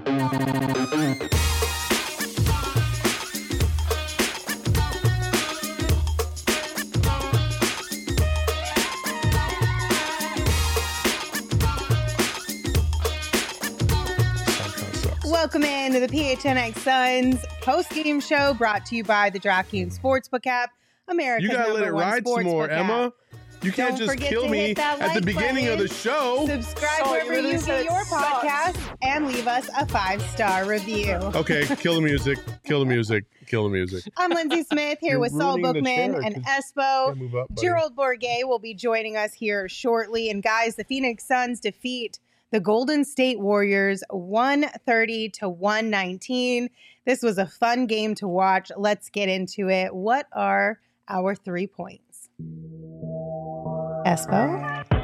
Welcome in to the PHNX Suns post-game show brought to you by the DraftKings Sportsbook app, America's You gotta let it ride some more, Emma. You can't just kill me at the beginning of the show. Subscribe wherever you get your podcast and leave us a 5-star review. Okay, kill the music. Kill the music. Kill the music. I'm Lindsay Smith here with Saul Bookman and Espo. Gerald Bourguet will be joining us here shortly. And guys, the Phoenix Suns defeat the Golden State Warriors 130-119. This was a fun game to watch. Let's get into it. What are our 3 points? Espo?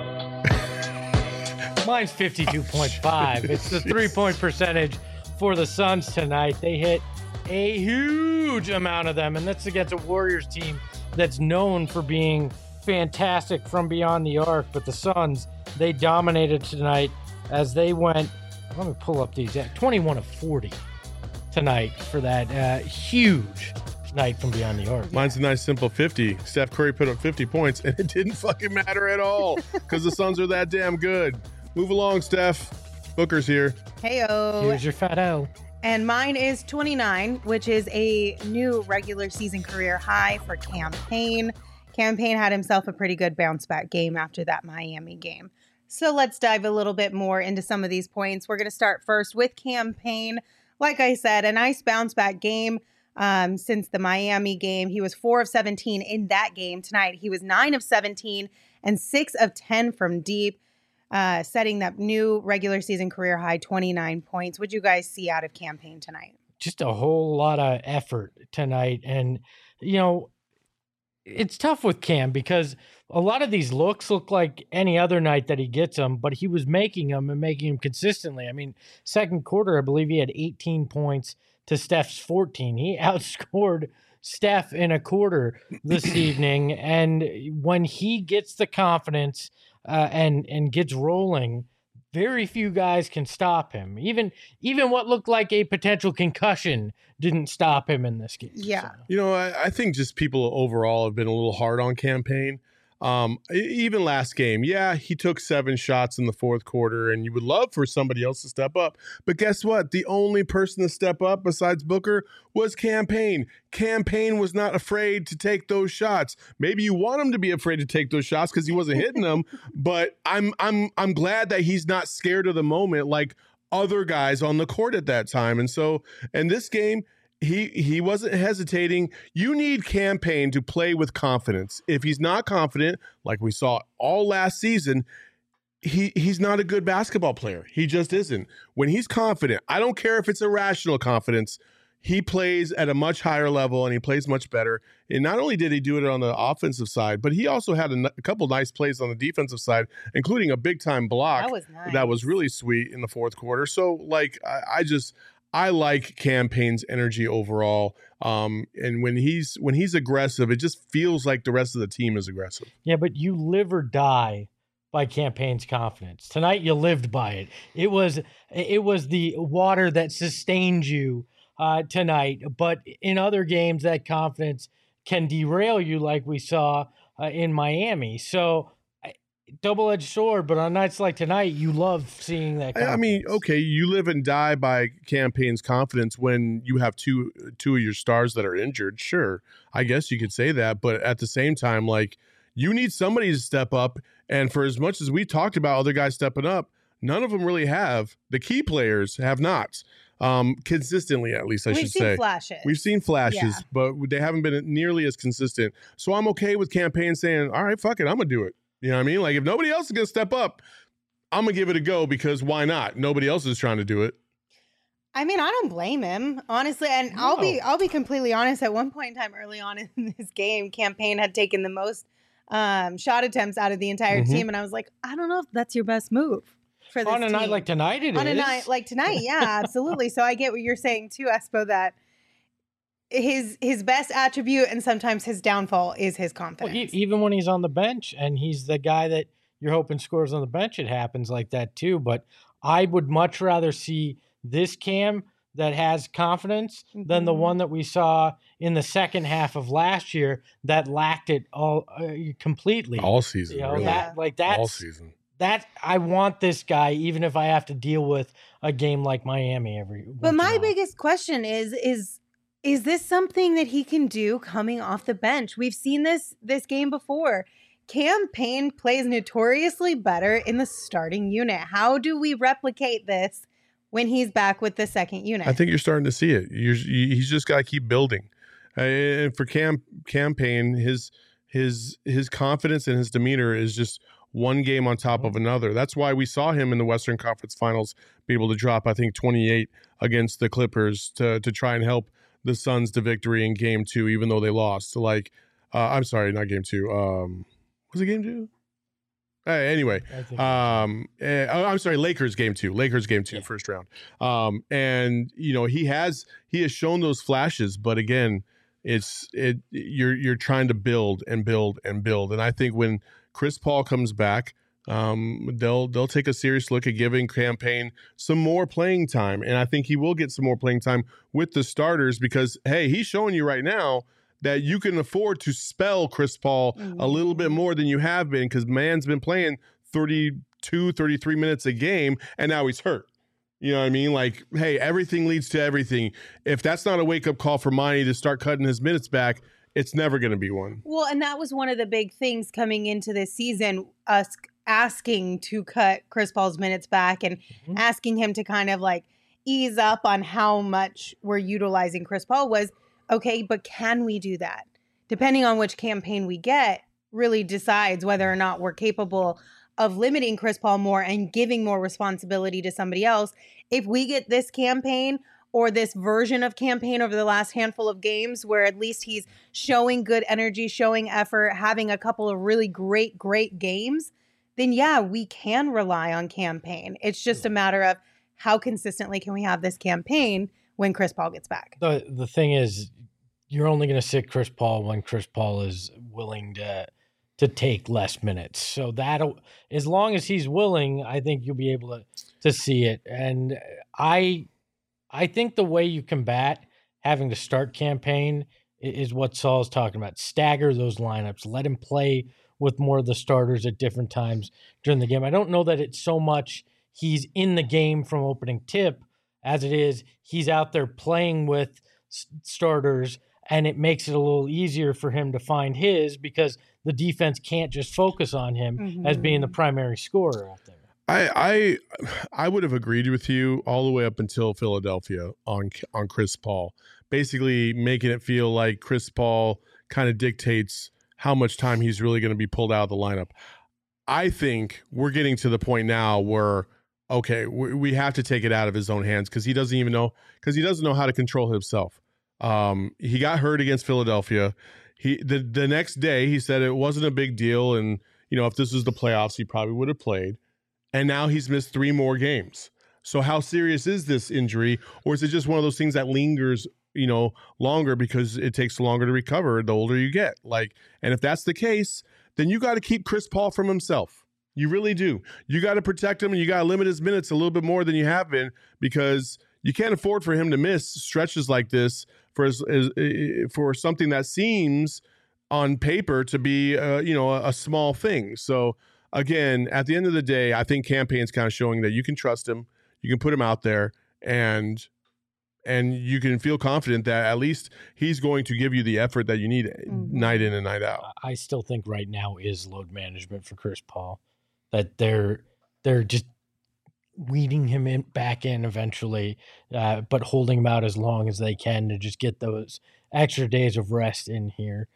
Mine's 52.5. It's the 3-point percentage for the Suns tonight. They hit a huge amount of them, and that's against a Warriors team that's known for being fantastic from beyond the arc. But the Suns, they dominated tonight as they went, let me pull up the exact, 21 of 40 tonight for that huge night from beyond the arc. Mine's a nice simple 50. Steph Curry put up 50 points, and it didn't fucking matter at all because the Suns are that damn good. Move along, Steph. Booker's here. Heyo. Here's your fat O. And mine is 29, which is a new regular season career high for Cam Payne. Cam Payne had himself a pretty good bounce back game after that Miami game. So let's dive a little bit more into some of these points. We're going to start first with Cam Payne. Like I said, a nice bounce back game since the Miami game. He was 4 of 17 in that game. Tonight, he was 9 of 17 and 6 of 10 from deep, setting that new regular season career high, 29 points. What'd you guys see out of Cam Payne tonight? Just a whole lot of effort tonight. And, you know, it's tough with Cam because a lot of these looks look like any other night that he gets them, but he was making them and making them consistently. I mean, second quarter, I believe he had 18 points to Steph's 14. He outscored Steph in a quarter this evening. And when he gets the confidence and gets rolling, very few guys can stop him. Even what looked like a potential concussion didn't stop him in this game. Yeah. So. You know, I think just people overall have been a little hard on Cam Payne. Even last game, yeah, he took 7 shots in the fourth quarter, and you would love for somebody else to step up. But guess what? The only person to step up besides Booker was Cam Payne. Cam Payne was not afraid to take those shots. Maybe you want him to be afraid to take those shots because he wasn't hitting them. But I'm glad that he's not scared of the moment like other guys on the court at that time. And so in this game, he wasn't hesitating. You need Cam Payne to play with confidence. If he's not confident, like we saw all last season, he's not a good basketball player. He just isn't. When he's confident, I don't care if it's irrational confidence, he plays at a much higher level and he plays much better. And not only did he do it on the offensive side, but he also had a couple nice plays on the defensive side, including a big-time block that was nice. That was really sweet in the fourth quarter. So, like, I like Cam Payne's energy overall. And when he's aggressive, it just feels like the rest of the team is aggressive. Yeah, but you live or die by Cam Payne's confidence. Tonight you lived by it. It was the water that sustained you tonight. But in other games, that confidence can derail you, like we saw in Miami. So double-edged sword, but on nights like tonight, you love seeing that confidence. I mean, okay, you live and die by Cam Payne's confidence when you have two of your stars that are injured. Sure, I guess you could say that, but at the same time, like, you need somebody to step up, and for as much as we talked about other guys stepping up, none of them really have. The key players have not. Consistently, at least, We've seen flashes. We've seen flashes, yeah, but they haven't been nearly as consistent. So I'm okay with Cam Payne saying, all right, fuck it, I'm going to do it. You know what I mean? Like, if nobody else is going to step up, I'm going to give it a go because why not? Nobody else is trying to do it. I mean, I don't blame him, honestly. And no. I'll be completely honest. At one point in time early on in this game, Cam Payne had taken the most shot attempts out of the entire team. And I was like, I don't know if that's your best move for this on a team. Night like tonight, it is. On a night like tonight, yeah, absolutely. So I get what you're saying too, Espo, that his best attribute and sometimes his downfall is his confidence. Well, even when he's on the bench and he's the guy that you're hoping scores on the bench, it happens like that too. But I would much rather see this Cam that has confidence than the one that we saw in the second half of last year that lacked it all completely all season. Really. That's all season. That I want this guy, even if I have to deal with a game like Miami every. But my biggest question is this something that he can do coming off the bench? We've seen this game before. Cam Payne plays notoriously better in the starting unit. How do we replicate this when he's back with the second unit? I think you're starting to see it. He's just got to keep building. And for Cam Payne, his confidence and his demeanor is just one game on top of another. That's why we saw him in the Western Conference Finals be able to drop, I think, 28 against the Clippers to try and help the Suns to victory in Game 2, even though they lost. I'm sorry, not Game 2. Was it Game 2? Anyway, I'm sorry, Lakers Game 2. Yeah. First round. And he has shown those flashes, but again, you're trying to build and build and build. And I think when Chris Paul comes back, they'll take a serious look at giving Cam Payne some more playing time, and I think he will get some more playing time with the starters because hey, he's showing you right now that you can afford to spell Chris Paul a little bit more than you have been because man's been playing 32, 33 minutes a game, and now he's hurt. You know what I mean? Like, hey, everything leads to everything. If that's not a wake-up call for Monty to start cutting his minutes back, it's never going to be one. Well, and that was one of the big things coming into this season, us asking to cut Chris Paul's minutes back and asking him to kind of like ease up on how much we're utilizing Chris Paul was, okay, but can we do that? Depending on which campaign we get really decides whether or not we're capable of limiting Chris Paul more and giving more responsibility to somebody else. If we get this campaign or this version of campaign over the last handful of games where at least he's showing good energy, showing effort, having a couple of really great games, then yeah, we can rely on campaign. It's just a matter of how consistently can we have this campaign when Chris Paul gets back. The thing is, you're only going to sit Chris Paul when Chris Paul is willing to take less minutes. So that'll, as long as he's willing, I think you'll be able to see it. And I think the way you combat having to start campaign is what Saul's talking about. Stagger those lineups. Let him play with more of the starters at different times during the game. I don't know that it's so much he's in the game from opening tip as it is he's out there playing with starters, and it makes it a little easier for him to find his because the defense can't just focus on him as being the primary scorer out there. I would have agreed with you all the way up until Philadelphia on Chris Paul, basically making it feel like Chris Paul kind of dictates how much time he's really going to be pulled out of the lineup. I think we're getting to the point now where, okay, we have to take it out of his own hands because he doesn't know how to control himself. He got hurt against Philadelphia. The next day he said it wasn't a big deal, and if this was the playoffs, he probably would have played. And now he's missed 3 more games. So how serious is this injury, or is it just one of those things that lingers, longer because it takes longer to recover the older you get? And if that's the case, then you got to keep Chris Paul from himself. You really do. You got to protect him, and you got to limit his minutes a little bit more than you have been because you can't afford for him to miss stretches like this for something that seems on paper to be a small thing. So again, at the end of the day, I think Cam Payne's kind of showing that you can trust him, you can put him out there, and you can feel confident that at least he's going to give you the effort that you need night in and night out. I still think right now is load management for Chris Paul, that they're just weeding him back in eventually, but holding him out as long as they can to just get those extra days of rest in here.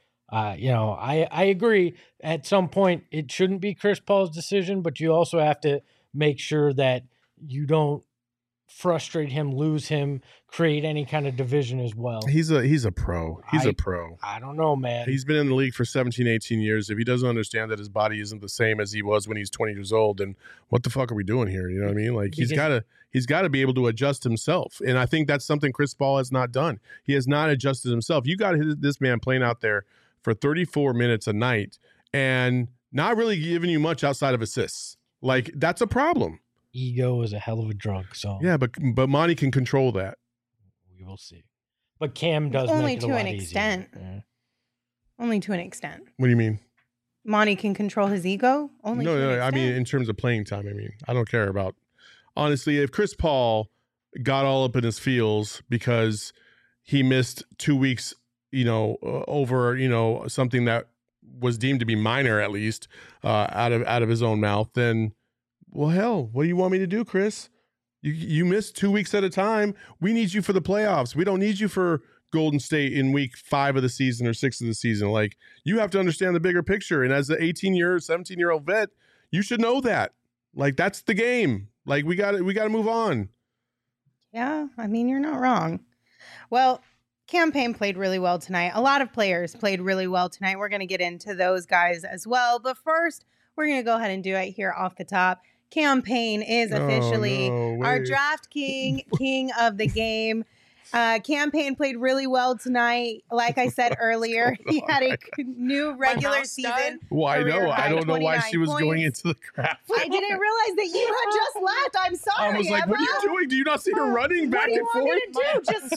I agree. At some point, it shouldn't be Chris Paul's decision, but you also have to make sure that you don't frustrate him, lose him, create any kind of division as well. He's a pro. He's a pro. I don't know, man. He's been in the league for 17, 18 years. If he doesn't understand that his body isn't the same as he was when he's 20 years old, then what the fuck are we doing here? You know what I mean? Like he's got to be able to adjust himself. And I think that's something Chris Paul has not done. He has not adjusted himself. You got this man playing out there for 34 minutes a night and not really giving you much outside of assists. Like, that's a problem. ego is a hell of a drug. So Yeah, but Monty can control that. we will see. But Cam does Only make it to a an lot extent. easier. Yeah. Only to an extent. What do you mean? Monty can control his ego. Only to an No, extent. I mean in terms of playing time. I mean, I don't care about. Honestly, if Chris Paul got all up in his feels because he missed 2 weeks, over something that was deemed to be minor, at least out of his own mouth, then well, hell, what do you want me to do, Chris? You missed 2 weeks at a time. We need you for the playoffs. We don't need you for Golden State in week 5 of the season or 6 of the season. Like, you have to understand the bigger picture. And as an 17-year-old vet, you should know that. Like, that's the game. Like, we got to move on. Yeah, I mean, you're not wrong. Well, Cam Payne played really well tonight. A lot of players played really well tonight. We're going to get into those guys as well. But first, we're going to go ahead and do it here off the top. Cam Payne is officially our draft king of the game. Cam Payne played really well tonight. Like I said earlier, he had a new regular season. Well, I know. I don't know why she was points. going into the crap. I didn't realize that you had just left. I'm sorry. I was like, Emma. what are you doing? Do you not see her running back and forth? What do you want me to do? Just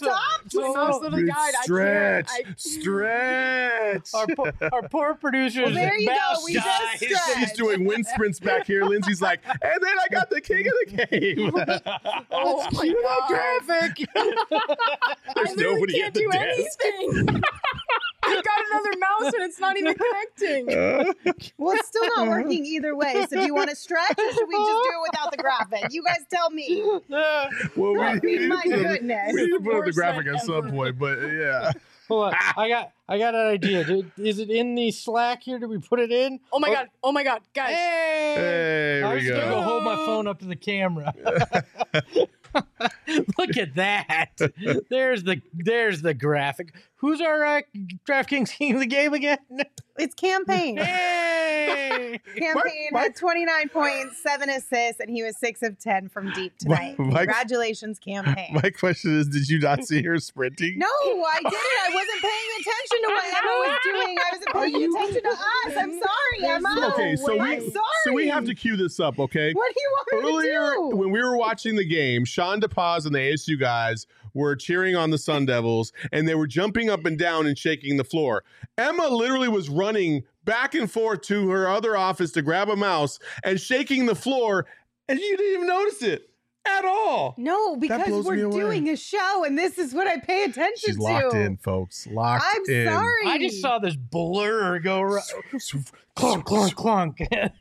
stop? Stretch. Our poor producer. Well, there you go. We just stretched. She's doing wind sprints back here. Lindsay's like, and then I got the king of the game. Oh my God. Traffic. There's nobody can't at the do desk. anything. I've got another mouse and it's not even connecting. Well, it's still not working either way. So do you want to stretch or should we just do it without the graphic? You guys tell me. Well, I mean, my goodness. We need to put up the Worst graphic thing at some ever. point, but yeah. Hold on. I got an idea. Is it in the Slack here? Did we put it in? Oh my God, guys. Hey! There I we was gonna go. hold my phone up to the camera. Look at that. There's the graphic. Who's our DraftKings king of the game again? It's Cam Payne. Hey! Cam Payne had 29 points, 7 assists, and he was 6 of 10 from deep tonight. Mike- Congratulations, Cam Payne. My question is, did you not see her sprinting? No, I didn't. I wasn't paying attention to what Emma was doing. I wasn't paying attention to us. I'm sorry, Emma. Okay, so we have to cue this up, okay? What do you want me Earlier, to do? when we were watching the game, Sean DePaz and the ASU guys were cheering on the Sun Devils, and they were jumping up and down and shaking the floor. Emma literally was running back and forth to her other office to grab a mouse and shaking the floor, and you didn't even notice it at all. No, because blows me we're away. doing a show, and this is what I pay attention She's to. locked in, folks. Locked I'm in. sorry. I just saw this blur go clunk, clunk, clunk.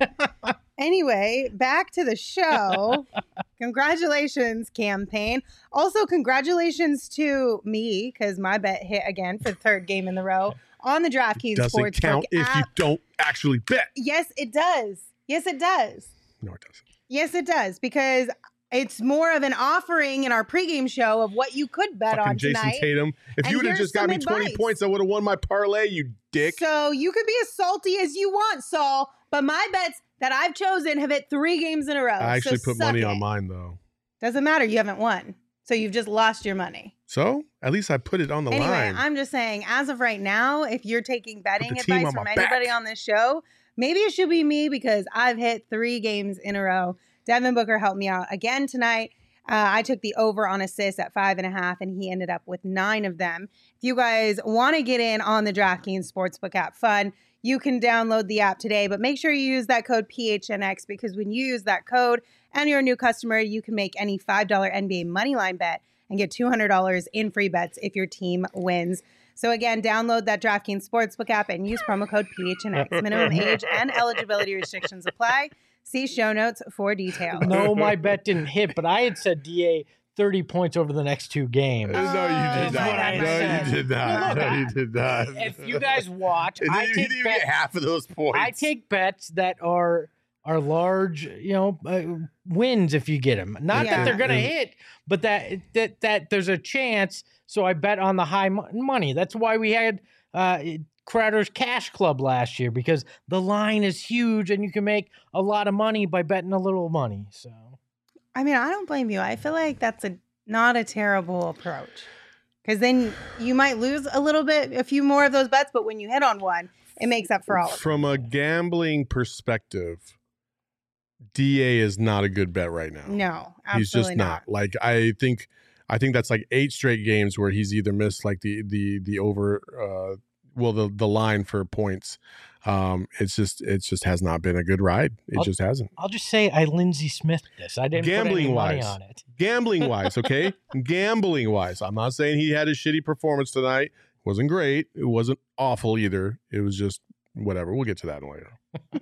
Anyway, back to the show. Congratulations, Cam Payne. Also, congratulations to me, because my bet hit again for the 3rd game in the row on the DraftKings Doesn't Sportsbook count if you app. don't actually bet. Yes, it does. Yes, it does. No, it doesn't. Yes, it does, because it's more of an offering in our pregame show of what you could bet Fucking on Jason tonight. Tatum. If And you would have here's just got me some 20 advice. points, I would have won my parlay, you dick. So you could be as salty as you want, Saul, but my bets that I've chosen have hit 3 games in a row. I actually so put suck money it. on mine, though. Doesn't matter. You haven't won. So you've just lost your money. So at least I put it on the Anyway, line. I'm just saying, as of right now, if you're taking betting the team advice on from my anybody back. on this show, maybe it should be me because I've hit 3 games in a row. Devin Booker helped me out again tonight. I took the over on assists at 5.5, and he ended up with 9 of them. If you guys want to get in on the DraftKings Sportsbook app fun, you can download the app today, but make sure you use that code PHNX because when you use that code and you're a new customer, you can make any $5 NBA moneyline bet and get $200 in free bets if your team wins. So again, download that DraftKings Sportsbook app and use promo code PHNX. Minimum age and eligibility restrictions apply. See show notes for details. No, my bet didn't hit, but I had said DA 30 points over the next 2 games. No, you did That's not. what I No, said. you did not. No, you did not. If you guys watch, And I you take didn't bets. get half of those points. I take bets that are large, wins if you get them. Not Yeah. that they're going to hit, but that there's a chance. So I bet on the high money. That's why we had Crowder's Cash Club last year, because the line is huge and you can make a lot of money by betting a little money. So I mean, I don't blame you. I feel like that's not a terrible approach. Because then you might lose a few more of those bets, but when you hit on one, it makes up for all of it. From a gambling perspective, DA is not a good bet right now. No, absolutely he's just not. Like I think that's like 8 straight games where he's either missed like the over the line for points. It just has not been a good ride. It just hasn't. I'll just say I Lindsey Smith this. I didn't put any money on it. Gambling wise, okay? Gambling wise. I'm not saying he had a shitty performance tonight. It wasn't great. It wasn't awful either. It was just whatever. We'll get to that later.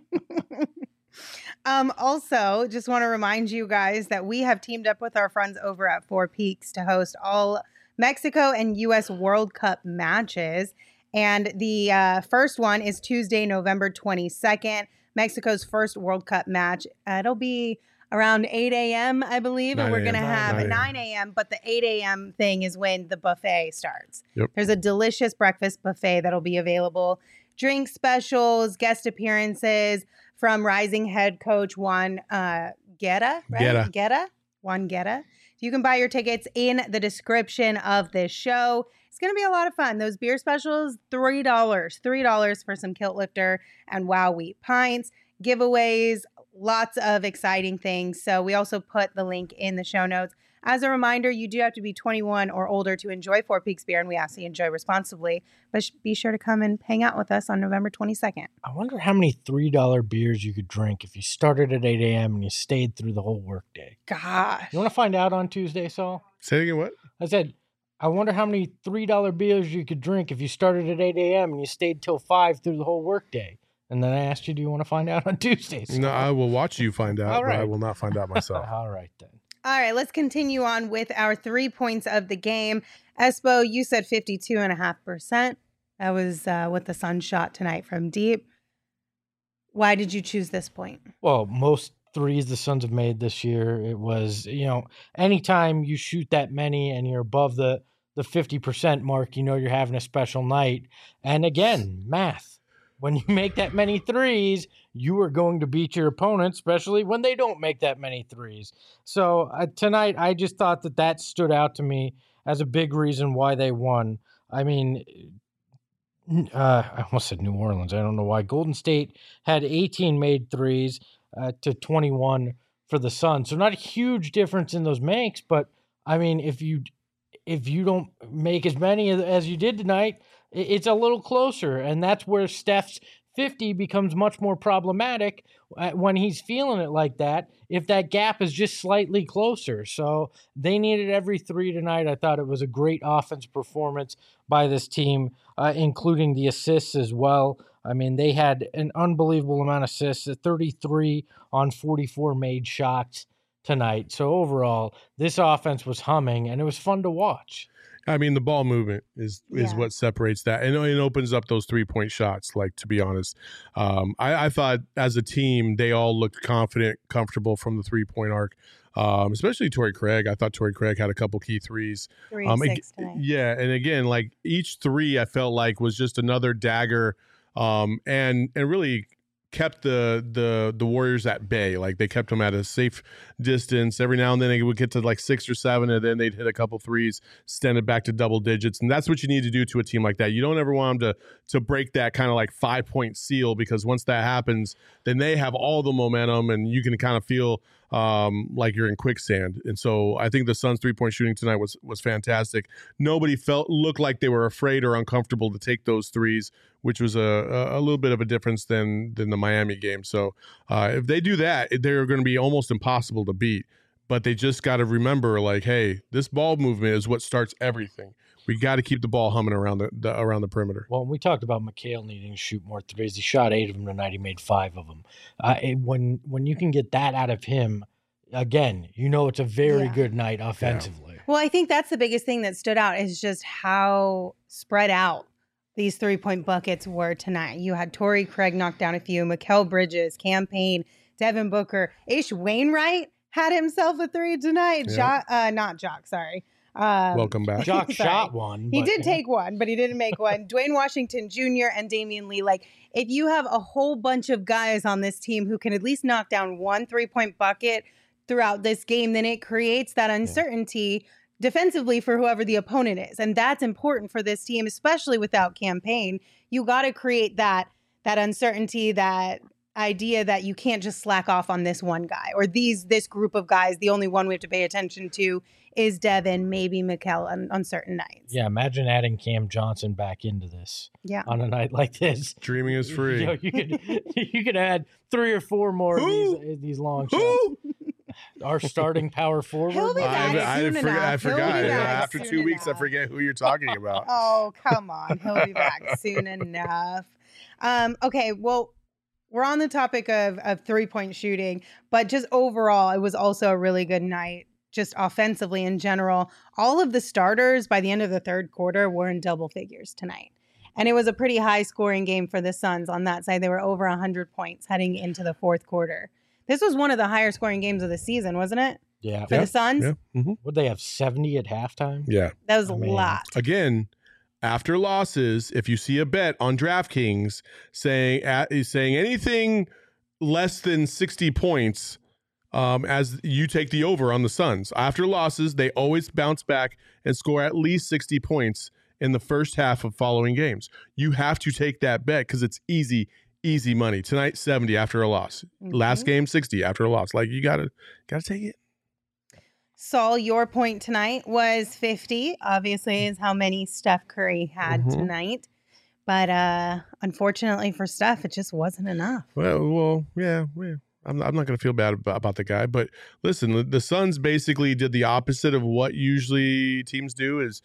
Also, just want to remind you guys that we have teamed up with our friends over at Four Peaks to host all Mexico and U.S. World Cup matches. And the first one is Tuesday, November 22nd, Mexico's first World Cup match. It'll be around 8 a.m., I believe. And we're going to have 9 a.m., but the 8 a.m. thing is when the buffet starts. Yep. There's a delicious breakfast buffet that'll be available. Drink specials, guest appearances from rising head coach Juan Guerra, right? Juan Guerra. You can buy your tickets in the description of this show. It's going to be a lot of fun. Those beer specials, $3 for some Kilt Lifter and Wow Wheat pints, giveaways, lots of exciting things. So we also put the link in the show notes. As a reminder, you do have to be 21 or older to enjoy Four Peaks beer, and we ask that you enjoy responsibly. But be sure to come and hang out with us on November 22nd. I wonder how many $3 beers you could drink if you started at 8 a.m. and you stayed through the whole workday. Gosh. You want to find out on Tuesday, Saul? Say it again, what? I said, I wonder how many $3 beers you could drink if you started at 8 a.m. and you stayed till 5 through the whole workday. And then I asked you, do you want to find out on Tuesday? No, I will watch you find out, All right. but I will not find out myself. All right, then. All right, let's continue on with our 3 points of the game. Espo, you said 52.5%. That was what the Sun shot tonight from deep. Why did you choose this point? Well, most threes the Suns have made this year, it was, anytime you shoot that many and you're above the 50% mark, you're having a special night. And again, math. When you make that many threes, you are going to beat your opponent, especially when they don't make that many threes. So tonight, I just thought that stood out to me as a big reason why they won. I mean, I almost said New Orleans. I don't know why. Golden State had 18 made threes to 21 for the Suns. So not a huge difference in those makes, but I mean, if you don't make as many as you did tonight, it's a little closer, and that's where Steph's 50 becomes much more problematic when he's feeling it like that, if that gap is just slightly closer. So they needed every three tonight. I thought it was a great offense performance by this team, including the assists as well. I mean, they had an unbelievable amount of assists, 33 on 44 made shots tonight. So overall, this offense was humming, and it was fun to watch. I mean, the ball movement is what separates that. And it opens up those 3-point shots, like, to be honest. I thought as a team, they all looked confident, comfortable from the 3-point arc, especially Torrey Craig. I thought Torrey Craig had a couple key threes. 3 and 6 tonight. Yeah, and again, like, each three I felt like was just another dagger and really kept the Warriors at bay. Like, they kept them at a safe distance. Every now and then they would get to like 6 or 7, and then they'd hit a couple threes, extend it back to double digits. And that's what you need to do to a team like that. You don't ever want them to break that kind of like 5-point seal, because once that happens, then they have all the momentum, and you can kind of feel like you're in quicksand. And so I think the Suns' 3-point shooting tonight was fantastic. Nobody looked like they were afraid or uncomfortable to take those threes, which was a little bit of a difference than the Miami game. So if they do that, they're going to be almost impossible to beat. But they just got to remember, like, hey, this ball movement is what starts everything. We got to keep the ball humming around the perimeter. Well, we talked about McHale needing to shoot more threes. He shot 8 of them tonight. He made 5 of them. When you can get that out of him, again, it's a very good night offensively. Yeah. Well, I think that's the biggest thing that stood out is just how spread out these 3-point buckets were tonight. You had Torrey Craig knock down a few, Mikal Bridges, Cam Payne, Devin Booker, Ish Wainwright had himself a 3 tonight. Yeah. Not Jock, sorry. Welcome back. Jock shot one. He did take one, but he didn't make one. Dwayne Washington Jr. and Damian Lee. Like, if you have a whole bunch of guys on this team who can at least knock down one 3-point bucket throughout this game, then it creates that uncertainty defensively for whoever the opponent is. And that's important for this team, especially without Cam Payne. You got to create that uncertainty, that idea that you can't just slack off on this one guy or this group of guys. The only one we have to pay attention to is Devin, maybe Mikal on certain nights. Yeah, imagine adding Cam Johnson back into this. Yeah. On a night like this. Dreaming is free. You know, you could add 3 or 4 more of these long shots. Our starting power forward. He'll be back soon enough. I He'll forgot. be back After soon 2 weeks, I enough. forget who you're talking about. Oh, come on. He'll be back soon enough. Okay, well, we're on the topic of 3-point shooting, but just overall, it was also a really good night, just offensively in general. All of the starters by the end of the third quarter were in double figures tonight. And it was a pretty high scoring game for the Suns on that side. They were over 100 points heading into the fourth quarter. This was one of the higher scoring games of the season, wasn't it? Yeah. For the Suns? Yeah. Mm-hmm. Would they have 70 at halftime? Yeah. That was I a mean, lot. Again, after losses, if you see a bet on DraftKings saying anything less than 60 points, as you take the over on the Suns. After losses, they always bounce back and score at least 60 points in the first half of following games. You have to take that bet because it's easy money. Tonight, 70 after a loss. Mhm. Last game, 60 after a loss. Like, you gotta take it. Saul, your point tonight was 50, obviously, is how many Steph Curry had Mhm. tonight. But unfortunately for Steph, it just wasn't enough. Well, yeah. I'm not going to feel bad about the guy. But listen, the Suns basically did the opposite of what usually teams do is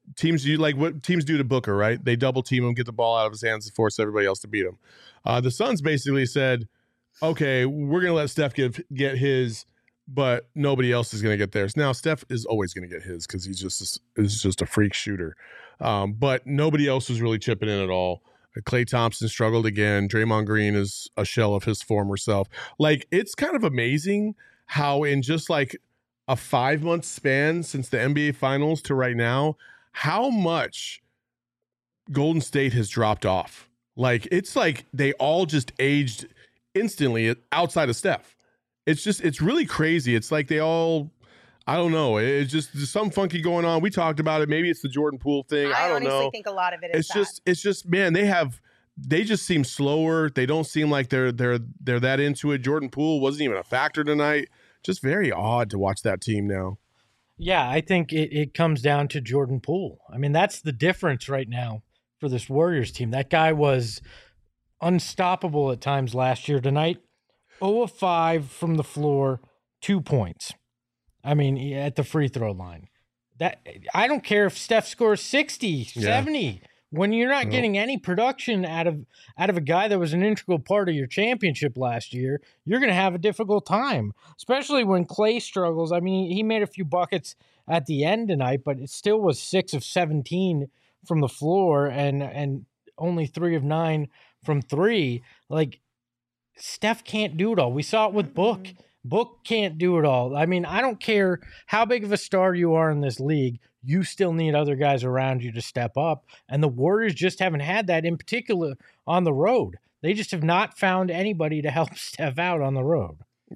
what teams do to Booker, right? They double team him, get the ball out of his hands and force everybody else to beat him. The Suns basically said, okay, we're going to let Steph get his, but nobody else is going to get theirs. Now, Steph is always going to get his because he's just a freak shooter. But nobody else was really chipping in at all. Klay Thompson struggled again. Draymond Green is a shell of his former self. Like, it's kind of amazing how in just like a 5-month span since the NBA Finals to right now, how much Golden State has dropped off. Like, it's like they all just aged instantly outside of Steph. It's really crazy. It's like they all, I don't know. It's just there's something funky going on. We talked about it. Maybe it's the Jordan Poole thing. I don't know. I honestly think a lot of it is It's just man, they just seem slower. They don't seem like they're that into it. Jordan Poole wasn't even a factor tonight. Just very odd to watch that team now. Yeah, I think it comes down to Jordan Poole. I mean, that's the difference right now for this Warriors team. That guy was unstoppable at times last year. Tonight, 0 of 5 from the floor, 2 points. I mean, at the free throw line. That I don't care if Steph scores 60, 70. When you're not getting any production out of a guy that was an integral part of your championship last year, you're going to have a difficult time, especially when Klay struggles. I mean, he made a few buckets at the end tonight, but it still was 6 of 17 from the floor and only 3 of 9 from 3. Like, Steph can't do it all. We saw it with Book. Book can't do it all. I mean, I don't care how big of a star you are in this league. You still need other guys around you to step up. And the Warriors just haven't had that, in particular on the road. They just have not found anybody to help Steph out on the road.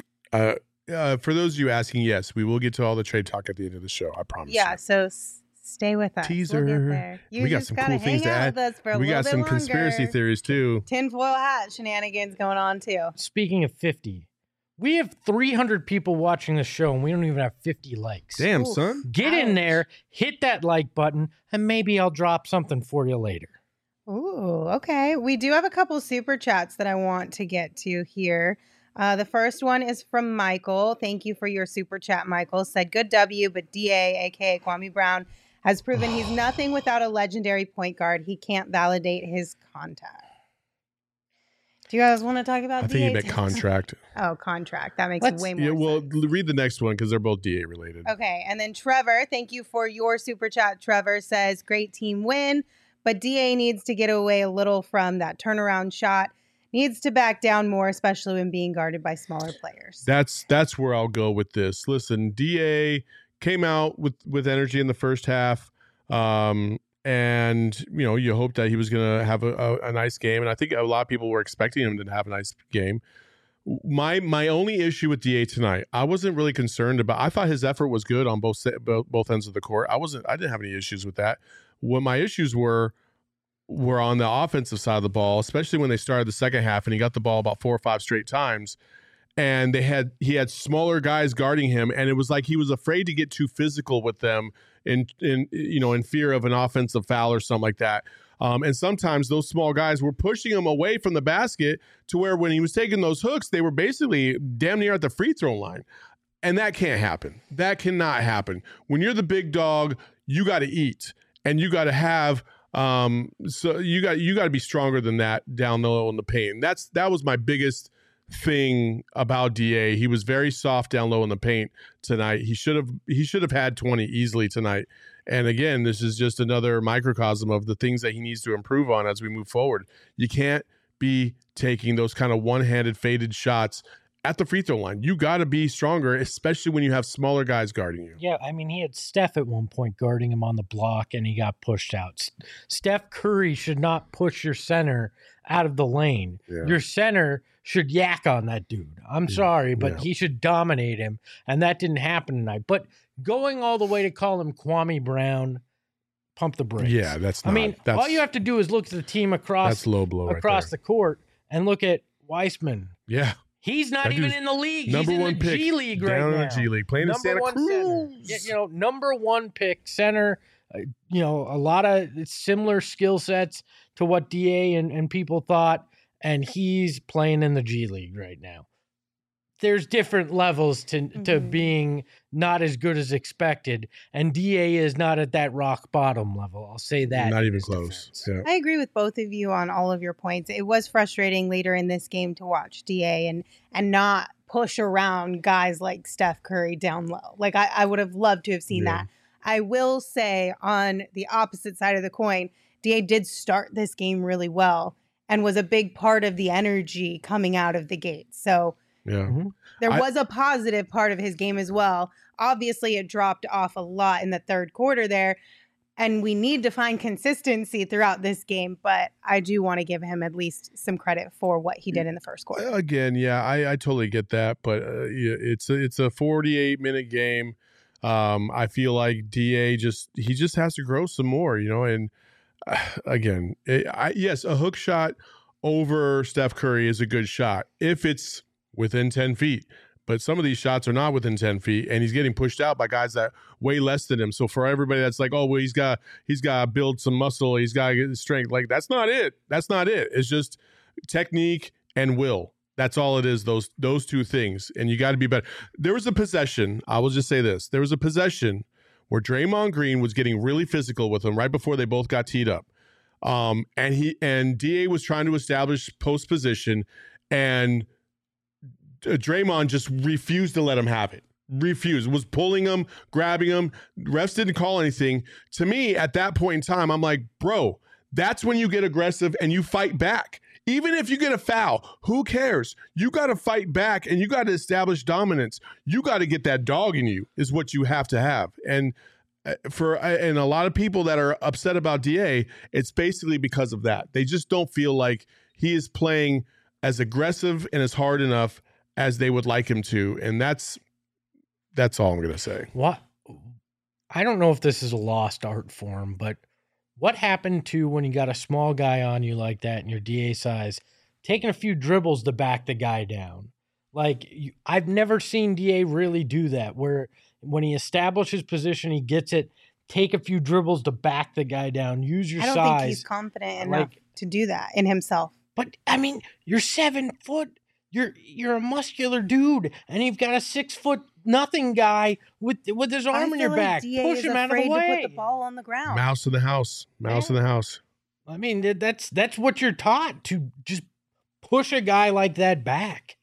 For those of you asking, yes, we will get to all the trade talk at the end of the show. I promise. Yeah, you. so stay with us. Teaser. We'll get there. We got some cool things to add. We got some conspiracy theories too. Tinfoil hat shenanigans going on too. Speaking of 50, we have 300 people watching the show, and we don't even have 50 likes. Damn, Oof. son. Get in there, hit that like button, and maybe I'll drop something for you later. Ooh, okay. We do have a couple super chats that I want to get to here. The first one is from Michael. Thank you for your super chat, Michael. Said, good W, but DA, a.k.a. Kwame Brown, has proven he's nothing without a legendary point guard. He can't validate his contact. Do you guys want to talk about I DA? think he meant contract. Oh, contract. That makes way more Yeah, well, sense. read the next one because they're both DA related. Okay, and then Trevor, thank you for your super chat. Trevor says, great team win, but DA needs to get away a little from that turnaround shot. Needs to back down more, especially when being guarded by smaller players. That's where I'll go with this. Listen, DA came out with energy in the first half. And, you hope that he was going to have a nice game. And I think a lot of people were expecting him to have a nice game. My only issue with DA tonight, I wasn't really concerned about. I thought his effort was good on both ends of the court. I didn't have any issues with that. What my issues were were on the offensive side of the ball, especially when they started the second half and he got the ball about 4 or 5 straight times. And he had smaller guys guarding him, and it was like he was afraid to get too physical with them in fear of an offensive foul or something like that. And sometimes those small guys were pushing him away from the basket to where when he was taking those hooks, they were basically damn near at the free throw line. And that can't happen. That cannot happen. When you're the big dog, you got to eat, and you got to have so you got to be stronger than that down low in the paint. That was my biggest thing about DA. He was very soft down low in the paint tonight. He should have had 20 easily tonight. And again, this is just another microcosm of the things that he needs to improve on as we move forward. You can't be taking those kind of one-handed faded shots at the free throw line. You got to be stronger, especially when you have smaller guys guarding you. Yeah, I mean, he had Steph at one point guarding him on the block, and he got pushed out. Steph Curry should not push your center out of the lane. Yeah. Your center should yak on that dude. I'm sorry, but he should dominate him, and that didn't happen tonight. But going all the way to call him Kwame Brown, pump the brakes. Yeah, that's not. I mean, all you have to do is look at the team across the court and look at Weissman. Yeah. He's not even in the league. Number He's in one the pick G League right down now. in the G League, playing in Santa Cruz. Number one pick center. A lot of similar skill sets to what DA and people thought, and he's playing in the G League right now. There's different levels to being not as good as expected, and DA is not at that rock bottom level. I'll say that. Not even close. Yeah. I agree with both of you on all of your points. It was frustrating later in this game to watch DA and not push around guys like Steph Curry down low. Like I would have loved to have seen that. I will say on the opposite side of the coin, DA did start this game really well and was a big part of the energy coming out of the gate. So there was a positive part of his game as well. Obviously, it dropped off a lot in the third quarter there, and we need to find consistency throughout this game, but I do want to give him at least some credit for what he did in the first quarter. Again, I totally get that, but it's a 48-minute game. I feel like DA just has to grow some more, and again, yes, a hook shot over Steph Curry is a good shot if it's within 10 feet. But some of these shots are not within 10 feet, and he's getting pushed out by guys that way less than him. So for everybody that's like, oh, well, he's got to build some muscle, he's got to get strength. Like, that's not it. That's not it. It's just technique and will. That's all it is, those two things. And you got to be better. There was a possession. I will just say this. There was a possession where Draymond Green was getting really physical with him right before they both got teed up. And DA was trying to establish post position, and Draymond just refused to let him have it. Refused. Was pulling him, grabbing him. Refs didn't call anything. To me, at that point in time, I'm like, bro, that's when you get aggressive and you fight back. Even if you get a foul, who cares? You got to fight back, and you got to establish dominance. You got to get that dog in you is what you have to have. And and a lot of people that are upset about DA, it's basically because of that. They just don't feel like he is playing as aggressive and as hard enough as they would like him to. And that's all I'm going to say. What? I don't know if this is a lost art form, but what happened to when you got a small guy on you like that in your DA size, taking a few dribbles to back the guy down? Like, I've never seen DA really do that, where when he establishes position, he gets it, take a few dribbles to back the guy down, use your size. I don't think he's confident enough to do that in himself. But, I mean, you're 7 foot. You're a muscular dude, and you've got a 6 foot nothing guy with his arm in your back. Push him out of the way. To put the ball on the ground. Mouse in the house. Mouse in the house. I mean, that's what you're taught, to just push a guy like that back.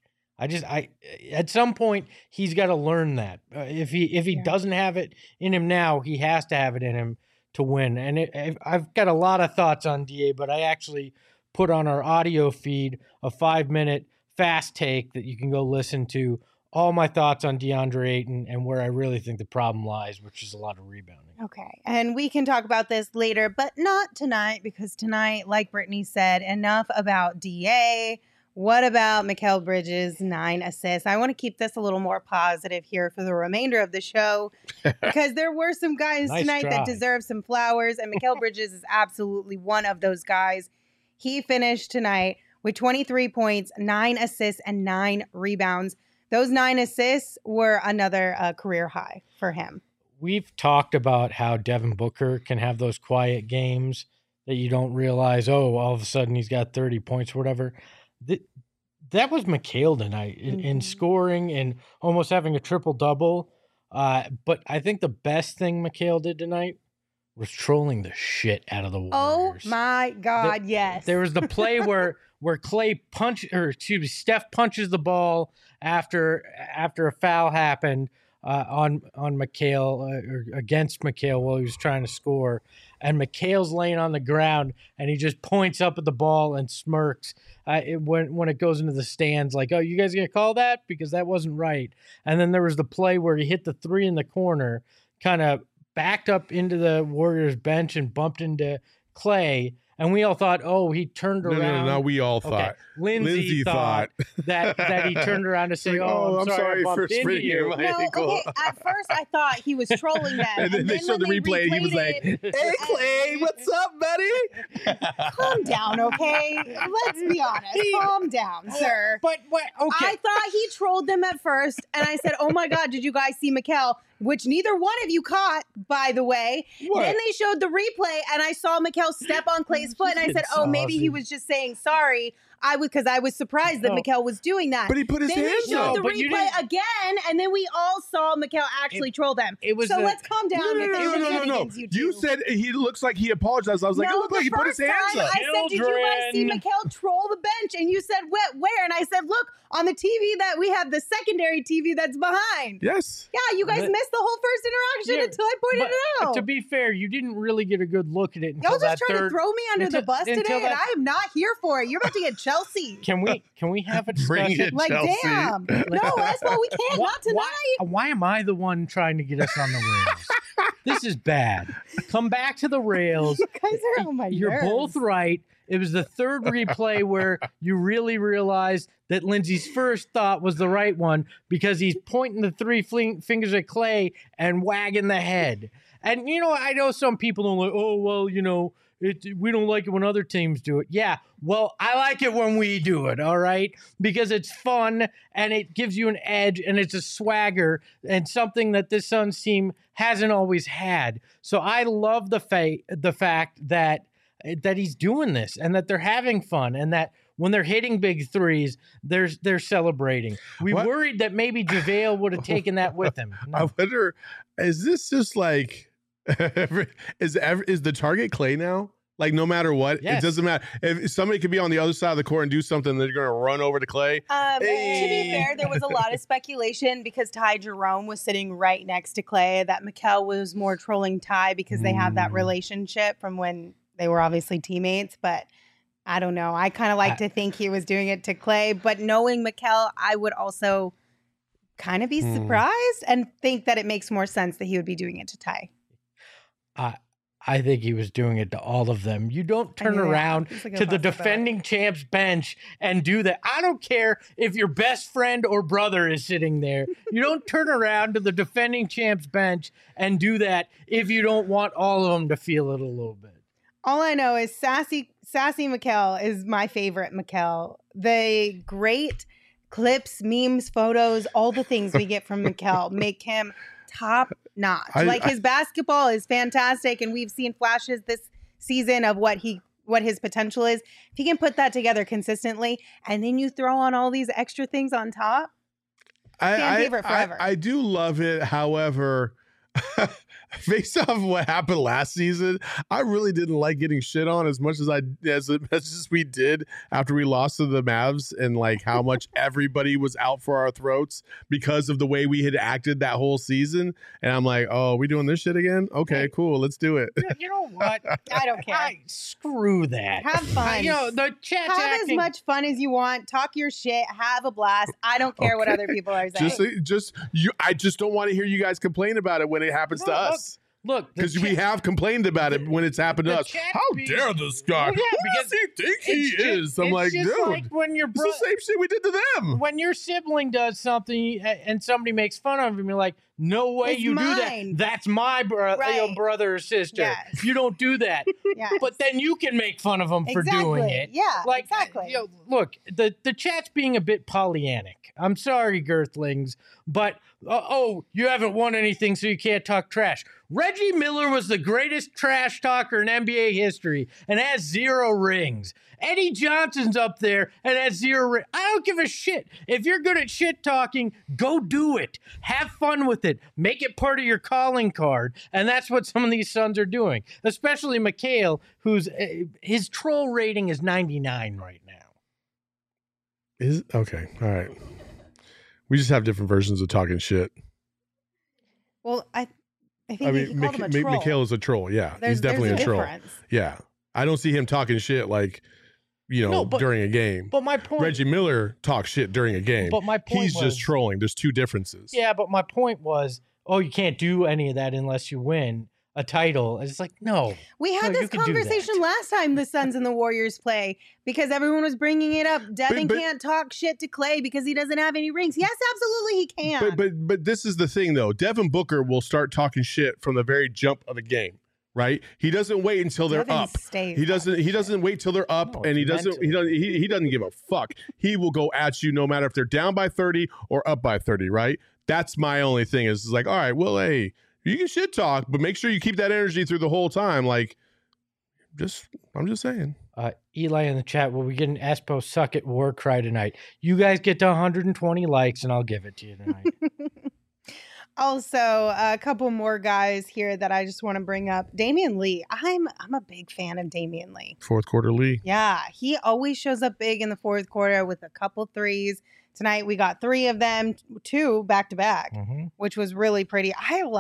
At some point he's got to learn that. If he doesn't have it in him now, he has to have it in him to win. And I've got a lot of thoughts on DA, but I actually put on our audio feed a 5-minute fast take that you can go listen to, all my thoughts on DeAndre Ayton and where I really think the problem lies, which is a lot of rebounding. Okay. And we can talk about this later, but not tonight, because tonight, like Brittany said, enough about DA. What about Mikal Bridges' 9 assists? I want to keep this a little more positive here for the remainder of the show because there were some guys Nice tonight that try. deserve some flowers, and Mikal Bridges is absolutely one of those guys. He finished tonight with 23 points, 9 assists, and 9 rebounds. Those 9 assists were another career high for him. We've talked about how Devin Booker can have those quiet games that you don't realize, oh, all of a sudden he's got 30 points or whatever. That was Mikal tonight in scoring and almost having a triple-double. But I think the best thing Mikal did tonight was trolling the shit out of the Warriors. Oh, my God, yes. There was the play where Steph punches the ball after a foul happened on Mikal or against Mikal while he was trying to score, and Mikal's laying on the ground and he just points up at the ball and smirks when it goes into the stands, like, oh, you guys gonna call that because that wasn't right. And then there was the play where he hit the 3 in the corner, kind of backed up into the Warriors bench and bumped into Clay. And we all thought, oh, he turned around. No, we all thought. Lindsay thought that he turned around to say, oh, I'm sorry I bumped into you. No, okay, at first I thought he was trolling them. And then they showed the replay and he was like, hey, Clay, what's up, buddy? Calm down, okay? Let's be honest. Calm down, sir. But what? Okay. I thought he trolled them at first, and I said, oh my God, did you guys see Mikal? Which neither one of you caught, by the way. What? Then they showed the replay, and I saw Mikal step on Clay's foot, and I said, oh, maybe he was just saying sorry. Because I was surprised that Mikal was doing that. But he put his hands up. Then they showed the replay again, and then we all saw Mikal actually troll them. Let's calm down. No. You said he looks like he apologized. I was like, it looked like he put his hands up. I said, did you guys see Mikal troll the bench? And you said, where? And I said, look, on the TV that we have, the secondary TV that's behind. Yes. Yeah, you guys missed the whole first interaction until I pointed it out. To be fair, you didn't really get a good look at it until Y'all just trying to throw me under the bus today, and I am not here for it. You're about to get Chelsea. Can we have a discussion? Bring it, like, Chelsea. Damn. No, Espo, we can't. Not tonight. Why am I the one trying to get us on the rails? This is bad. Come back to the rails. You guys are on my You're nerves. both right. It was the third replay where you really realized that Lindsay's first thought was the right one because he's pointing the 3 fingers at Clay and wagging the head. And, I know some people don't like, oh, well, we don't like it when other teams do it. Yeah, well, I like it when we do it, all right? Because it's fun and it gives you an edge and it's a swagger and something that this Suns team hasn't always had. So I love the fact that he's doing this and that they're having fun and that when they're hitting big threes, they're celebrating. We worried that maybe JaVale would have taken that with him. No. I wonder, is this just like, is the target Clay now? Like, no matter what, yes. It doesn't matter. If somebody could be on the other side of the court and do something, they're going to run over to Clay. To be fair, there was a lot of speculation because Ty Jerome was sitting right next to Clay that Mikal was more trolling Ty because they have that relationship from when they were obviously teammates. But I don't know. I kind of like to think he was doing it to Clay. But knowing Mikal, I would also kind of be surprised and think that it makes more sense that he would be doing it to Ty. I think he was doing it to all of them. You don't turn around to the defending champs bench and do that. I don't care if your best friend or brother is sitting there. You don't turn around to the defending champs bench and do that if you don't want all of them to feel it a little bit. All I know is Sassy Mikal is my favorite Mikal. The great clips, memes, photos, all the things we get from Mikal make him top notch. His basketball is fantastic, and we've seen flashes this season of what his potential is. If he can put that together consistently, and then you throw on all these extra things on top, fan favorite forever. I do love it. However, based off of what happened last season, I really didn't like getting shit on as much as we did after we lost to the Mavs, and like how much everybody was out for our throats because of the way we had acted that whole season. And I'm like, oh, we doing this shit again? Okay, cool, let's do it. You know what? I don't care. Screw that. Have fun. The chat's have as much fun as you want. Talk your shit. Have a blast. I don't care what other people are saying. I just don't want to hear you guys complain about it when it happens to us. Look, because we have complained about it when it's happened to the us. chat How feed- dare this guy? Well, yeah, Who because does he think he it's just- is? I'm it's like, just dude, like when your it's the same shit we did to them. when your sibling does something and somebody makes fun of him, you're like, no way It's you do mine. that. That's my Right. brother or sister. Yes. You don't do that. Yeah. But then you can make fun of them for doing Exactly. it. Yeah, Like, exactly. you know, look, the chat's being a bit Pollyannic. I'm sorry, Girthlings, but you haven't won anything, so you can't talk trash. Reggie Miller was the greatest trash talker in NBA history and has 0 rings. Eddie Johnson's up there and has 0 rings. I don't give a shit. If you're good at shit talking, go do it. Have fun with it. Make it part of your calling card. And that's what some of these sons are doing, especially Mikhail, who's his troll rating is 99 right now. Is okay. All right. We just have different versions of talking shit. Well, I think you called him a troll. Mikhail is a troll. Yeah, he's definitely there's a troll. difference. Yeah, I don't see him talking shit like, during a game. But my point, Reggie Miller talks shit during a game. But my point he's was, just trolling. There's two differences. Yeah, but my point was, you can't do any of that unless you win a title. It's like, no. We had No, this you can do conversation that. last time the Suns and the Warriors play because everyone was bringing it up. Devin but- can't talk shit to Clay because he doesn't have any rings. Yes, absolutely he can. But this is the thing though. Devin Booker will start talking shit from the very jump of the game. Right? He doesn't wait until they're Devin up. stays He doesn't wait till they're up, No, and he it's doesn't mental. he doesn't give a fuck. He will go at you no matter if they're down by 30 or up by 30. Right? That's my only thing. Is like, all right, well, hey, you can shit talk, but make sure you keep that energy through the whole time. Like, I'm just saying. Eli in the chat, will we get an Espo suck at war cry tonight? You guys get to 120 likes and I'll give it to you tonight. Also, a couple more guys here that I just want to bring up. Damian Lee. I'm a big fan of Damian Lee. Fourth quarter Lee. Yeah, he always shows up big in the fourth quarter with a couple threes. Tonight we got 3 of them, 2 back to back, which was really pretty.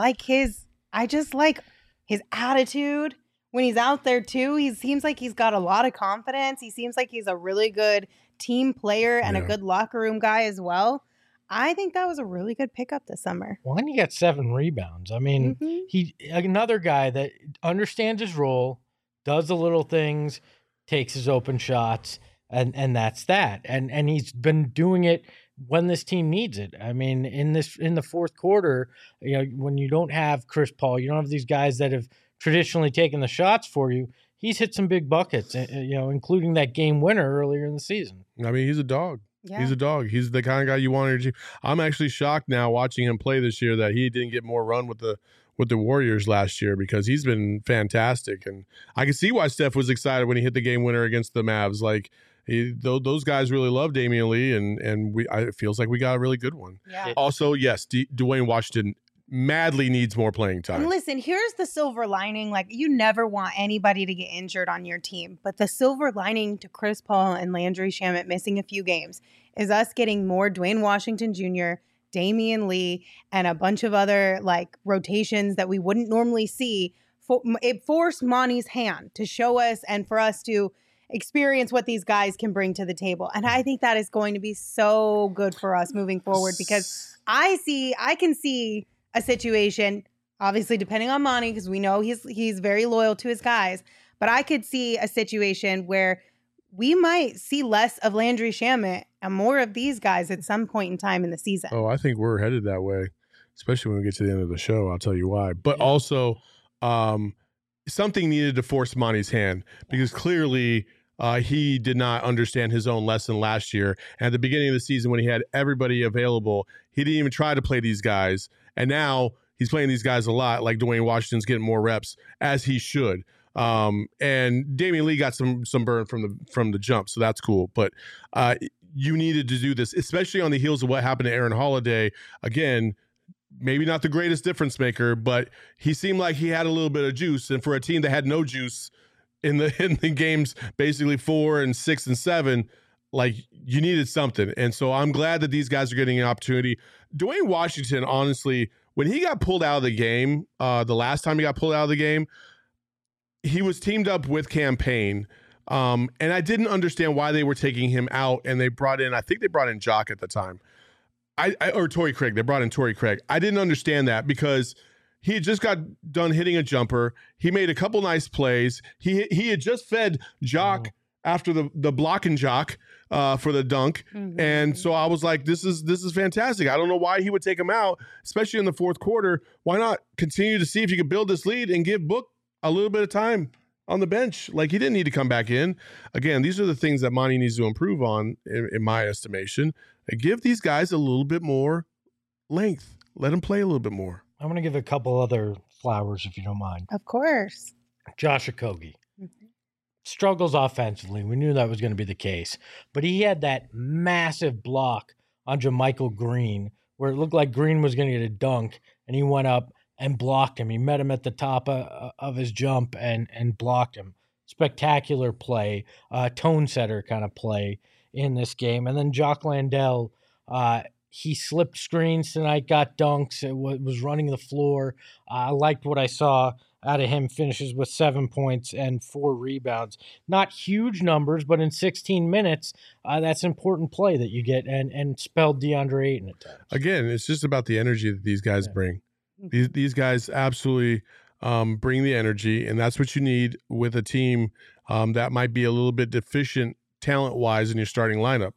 I just like his attitude when he's out there too. He seems like he's got a lot of confidence. He seems like he's a really good team player and a good locker room guy as well. I think that was a really good pickup this summer. Well, and he got 7 rebounds. I mean, he another guy that understands his role, does the little things, takes his open shots, and that's that. And he's been doing it when this team needs it. I mean, in the fourth quarter, when you don't have Chris Paul, you don't have these guys that have traditionally taken the shots for you. He's hit some big buckets, including that game winner earlier in the season. I mean, he's a dog. Yeah. He's a dog. He's the kind of guy you want on your team. I'm actually shocked now watching him play this year that he didn't get more run with the Warriors last year because he's been fantastic. And I can see why Steph was excited when he hit the game winner against the Mavs. Like those guys really love Damian Lee, and it feels like we got a really good one. Yeah. Also, yes, Dwayne Washington madly needs more playing time. And listen, here's the silver lining. Like, you never want anybody to get injured on your team. But the silver lining to Chris Paul and Landry Shamet missing a few games is us getting more Dwayne Washington Jr., Damian Lee, and a bunch of other, rotations that we wouldn't normally see. It forced Monty's hand to show us and for us to experience what these guys can bring to the table. And I think that is going to be so good for us moving forward because I can see a situation, obviously depending on Monty, because we know he's very loyal to his guys, but I could see a situation where we might see less of Landry Shamet and more of these guys at some point in time in the season. Oh, I think we're headed that way, especially when we get to the end of the show. I'll tell you why. But also, something needed to force Monty's hand because clearly he did not understand his own lesson last year. And at the beginning of the season, when he had everybody available, he didn't even try to play these guys. And now he's playing these guys a lot, like Dwayne Washington's getting more reps, as he should. And Damian Lee got some burn from the jump, so that's cool. But you needed to do this, especially on the heels of what happened to Aaron Holiday. Again, maybe not the greatest difference maker, but he seemed like he had a little bit of juice. And for a team that had no juice in the games, basically 4 and 6 and 7, you needed something. And so I'm glad that these guys are getting an opportunity. Dwayne Washington, honestly, when he got pulled out of the game, the last time he got pulled out of the game, he was teamed up with Campaign. And I didn't understand why they were taking him out. And I think they brought in Jock at the time. Or Torrey Craig. They brought in Torrey Craig. I didn't understand that because he had just got done hitting a jumper. He made a couple nice plays. He had just fed Jock after the block and jock for the dunk. And so I was like, this is fantastic. I don't know why he would take him out, especially in the fourth quarter. Why not continue to see if you could build this lead and give Book a little bit of time on the bench? Like, he didn't need to come back in. Again, these are the things that Monty needs to improve on, in my estimation. And give these guys a little bit more length. Let them play a little bit more. I'm going to give a couple other flowers, if you don't mind. Of course. Josh Okogie. Struggles offensively. We knew that was going to be the case. But he had that massive block on JaMychal Green where it looked like Green was going to get a dunk, and he went up and blocked him. He met him at the top of his jump and blocked him. Spectacular play, tone setter kind of play in this game. And then Jock Landale, he slipped screens tonight, got dunks, was running the floor. I liked what I saw out of him. Finishes with 7 points and 4 rebounds. Not huge numbers, but in 16 minutes, that's an important play that you get and spelled DeAndre Ayton at times. Again, it's just about the energy that these guys bring. These guys absolutely bring the energy, and that's what you need with a team that might be a little bit deficient talent-wise in your starting lineup.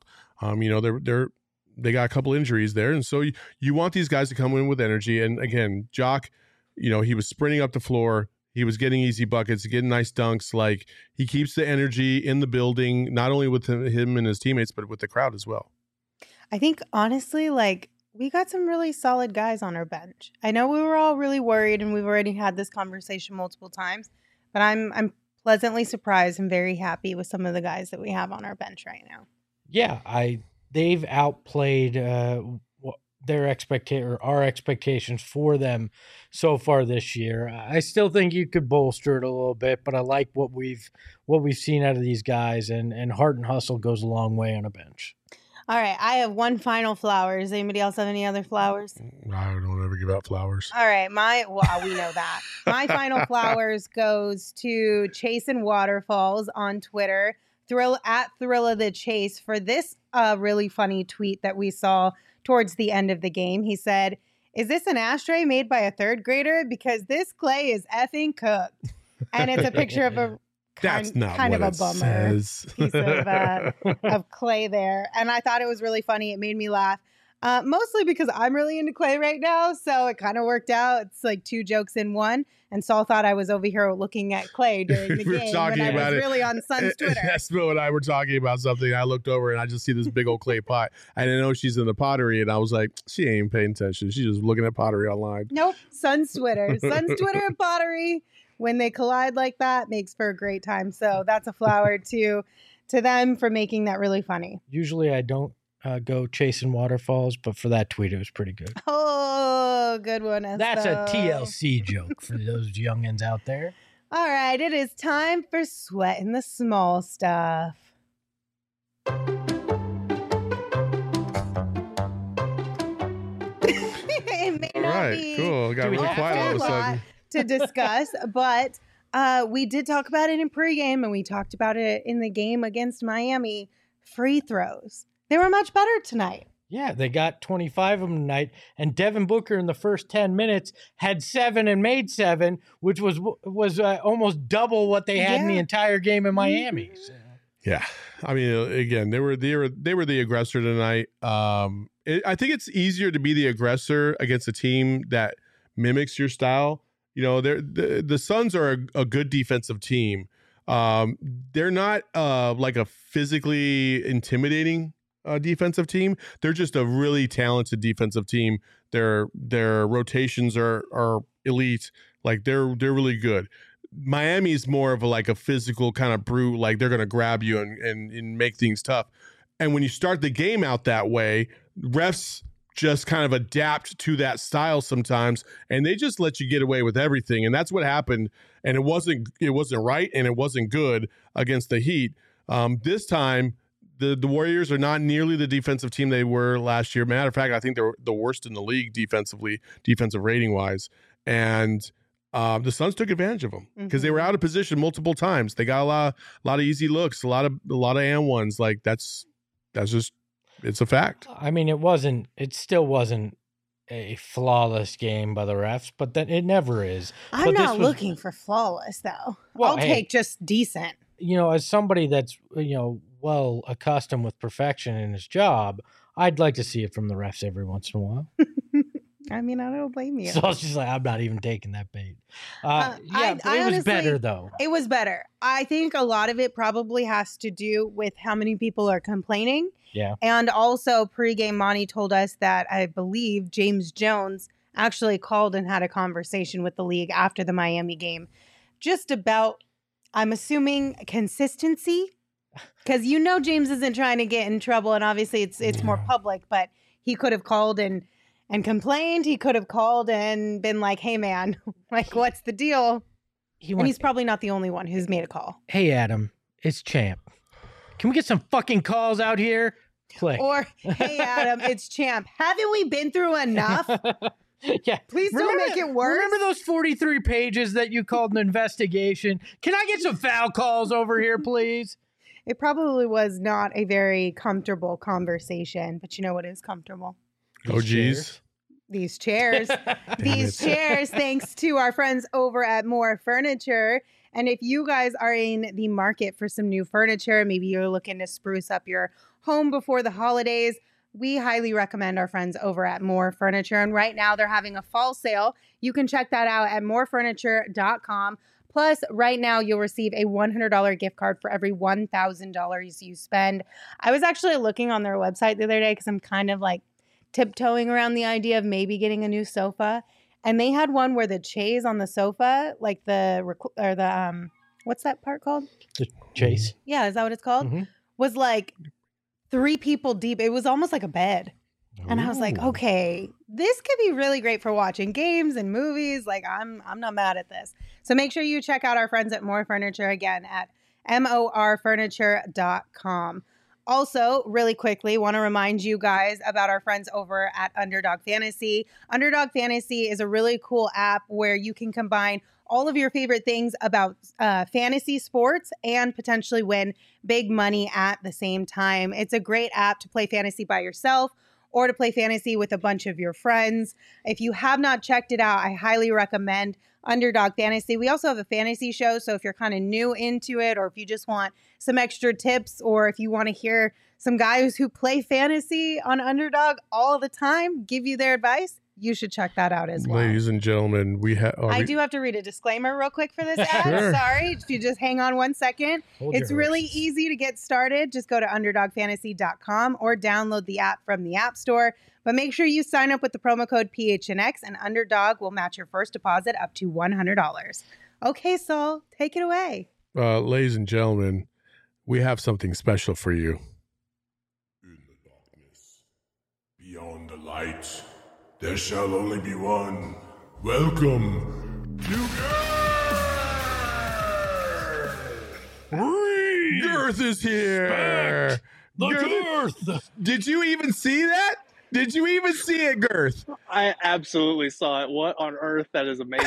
They got a couple injuries there, and so you want these guys to come in with energy. And again, Jock, he was sprinting up the floor. He was getting easy buckets, getting nice dunks. Like, he keeps the energy in the building, not only with him and his teammates, but with the crowd as well. I think, honestly, we got some really solid guys on our bench. I know we were all really worried, and we've already had this conversation multiple times, but I'm pleasantly surprised and very happy with some of the guys that we have on our bench right now. Yeah, they've outplayed our expectations for them so far this year. I still think you could bolster it a little bit, but I like what we've seen out of these guys, and heart and hustle goes a long way on a bench. All right, I have one final flowers. Anybody else have any other flowers? I don't ever give out flowers. All right, we know that. My final flowers goes to Chasin Waterfalls on Twitter, at Thrilla the Chase, for this really funny tweet that we saw towards the end of the game. He said, "Is this an ashtray made by a third grader? Because this clay is effing cooked." And it's a picture of a That's not kind what of a it bummer says. piece of clay there. And I thought it was really funny. It made me laugh. Mostly because I'm really into clay right now. So it kind of worked out. It's like 2 jokes in one. And Saul thought I was over here looking at clay during the We were game talking when I about was it. really on Sun's Twitter. Espo and I were talking about something. I looked over and I just see this big old clay pot. I didn't know she's in the pottery, and I was like, she ain't paying attention. She's just looking at pottery online. Nope. Sun's Twitter. Sun's Twitter and pottery, when they collide like that, makes for a great time. So that's a flower to them for making that really funny. Usually I don't go chasing waterfalls, but for that tweet, it was pretty good. Oh, good one, Espo. That's a TLC joke for those youngins out there. All right, it is time for Sweating the Small Stuff. It may All not right, be cool. It got Do we really have quiet all of a a lot sudden. to discuss, but we did talk about it in pregame, and we talked about it in the game against Miami. Free throws. They were much better tonight. Yeah, they got 25 of them tonight, and Devin Booker in the first 10 minutes had 7 and made 7, which was almost double what they had in the entire game in Miami. So. Yeah, I mean, again, they were the aggressor tonight. I think it's easier to be the aggressor against a team that mimics your style. The Suns are a good defensive team. They're not like a physically intimidating defensive team. They're just a really talented defensive team. Their rotations are elite. Like they're really good. Miami's more of a physical kind of brute. Like they're going to grab you and make things tough. And when you start the game out that way, refs just kind of adapt to that style sometimes, and they just let you get away with everything. And that's what happened. And it wasn't right, and it wasn't good against the Heat. This time, the Warriors are not nearly the defensive team they were last year. Matter of fact, I think they're the worst in the league defensive rating wise. And the Suns took advantage of them because they were out of position multiple times. They got a lot of easy looks, a lot of and ones. Like that's just, it's a fact. I mean, it still wasn't a flawless game by the refs, but then it never is. I'm But this not was- looking for flawless, though. Well, I'll hey. take just decent. As somebody that's, well accustomed with perfection in his job, I'd like to see it from the refs every once in a while. I mean, I don't blame you. So I was just like, I'm not even taking that bait. I But it was honestly- better though. It was better. I think a lot of it probably has to do with how many people are complaining. Yeah. And also, pregame Monty told us that I believe James Jones actually called and had a conversation with the league after the Miami game just about, I'm assuming, consistency. Because James isn't trying to get in trouble, and obviously it's more public, but he could have called and complained. He could have called and been like, hey, man, like, what's the deal? And he's probably not the only one who's made a call. Hey, Adam, it's Champ. Can we get some fucking calls out here? Click. Or, hey, Adam, it's Champ. Haven't we been through enough? Yeah. Please don't make it worse. Remember those 43 pages that you called an investigation? Can I get some foul calls over here, please? It probably was not a very comfortable conversation, but you know what is comfortable? Oh, geez. These chairs. These chairs, thanks to our friends over at More Furniture. And if you guys are in the market for some new furniture, maybe you're looking to spruce up your home before the holidays, we highly recommend our friends over at More Furniture. And right now they're having a fall sale. You can check that out at morefurniture.com. Plus, right now you'll receive a $100 gift card for every $1,000 you spend. I was actually looking on their website the other day because I'm kind of like tiptoeing around the idea of maybe getting a new sofa. And they had one where the chaise on the sofa, like what's that part called? The chase. Yeah, is that what it's called? Mhm. Was like 3 people deep. It was almost like a bed. And I was like, Ooh. okay, this could be really great for watching games and movies. Like, I'm not mad at this. So make sure you check out our friends at More Furniture again at morfurniture.com. Also, really quickly, want to remind you guys about our friends over at Underdog Fantasy. Underdog Fantasy is a really cool app where you can combine all of your favorite things about fantasy sports and potentially win big money at the same time. It's a great app to play fantasy by yourself or to play fantasy with a bunch of your friends. If you have not checked it out, I highly recommend Underdog Fantasy. We also have a fantasy show, so if you're kind of new into it, or if you just want some extra tips, or if you want to hear some guys who play fantasy on Underdog all the time give you their advice, you should check that out as well. Ladies and gentlemen, I do have to read a disclaimer real quick for this ad. Sure. Sorry, if you just hang on one second. Hold It's your really horses. easy to get started. Just go to underdogfantasy.com or download the app from the App Store. But make sure you sign up with the promo code PHNX, and Underdog will match your first deposit up to $100. Okay, Saul, take it away. ladies and gentlemen, we have something special for you. In the darkness, beyond the light, there shall only be one. Welcome to Girth is here. Girth. Did you even see that? Did you even see it, Girth? I absolutely saw it. What on earth? That is amazing.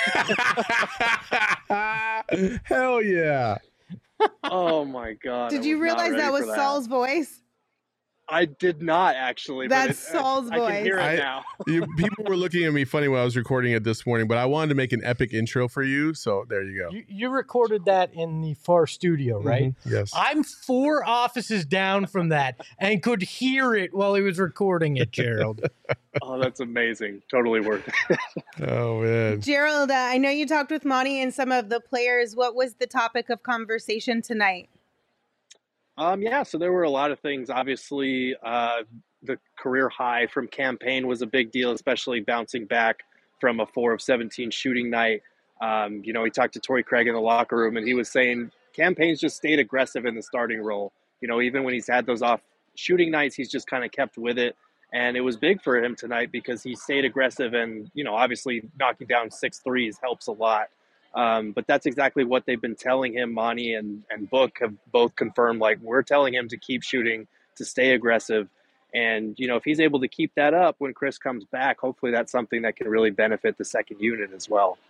Hell yeah. Oh my god! Did I you was not realize ready that for was Saul's voice? I did not actually. That's but Saul's I can voice. hear it I- now. People were looking at me funny when I was recording it this morning, but I wanted to make an epic intro for you, so there you go. You recorded that in the far studio, right? Mhm. Yes. I'm 4 offices down from that and could hear it while he was recording it, Gerald. Oh, that's amazing. Totally worth it. Oh man. Gerald, I know you talked with Monty and some of the players. What was the topic of conversation tonight? Yeah, so there were a lot of things. Obviously, the career high from Campaign was a big deal, especially bouncing back from a 4 of 17 shooting night. He talked to Torrey Craig in the locker room, and he was saying Campaign's just stayed aggressive in the starting role. Even when he's had those off shooting nights, he's just kind of kept with it. And it was big for him tonight because he stayed aggressive, and, obviously knocking down 6 threes helps a lot. But that's exactly what they've been telling him. Monty and Book have both confirmed, like, we're telling him to keep shooting, to stay aggressive. And, if he's able to keep that up when Chris comes back, hopefully that's something that can really benefit the second unit as well.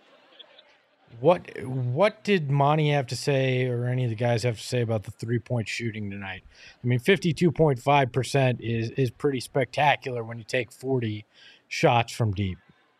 What did Monty have to say, or any of the guys have to say about the 3-point shooting tonight? I mean, 52.5% is pretty spectacular when you take 40 shots from deep?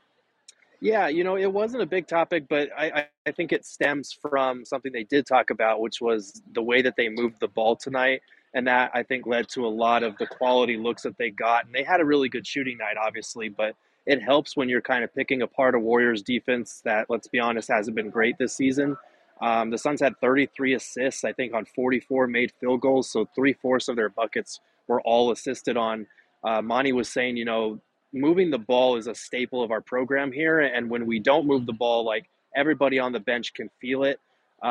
Yeah, it wasn't a big topic, but I think it stems from something they did talk about, which was the way that they moved the ball tonight. And that, I think, led to a lot of the quality looks that they got. And they had a really good shooting night, obviously, but it helps when you're kind of picking apart a Warriors defense that, let's be honest, hasn't been great this season. The Suns had 33 assists, I think, on 44 made field goals. So 3/4 of their buckets were all assisted on. Monty was saying, moving the ball is a staple of our program here. And when we don't move the ball, like, everybody on the bench can feel it.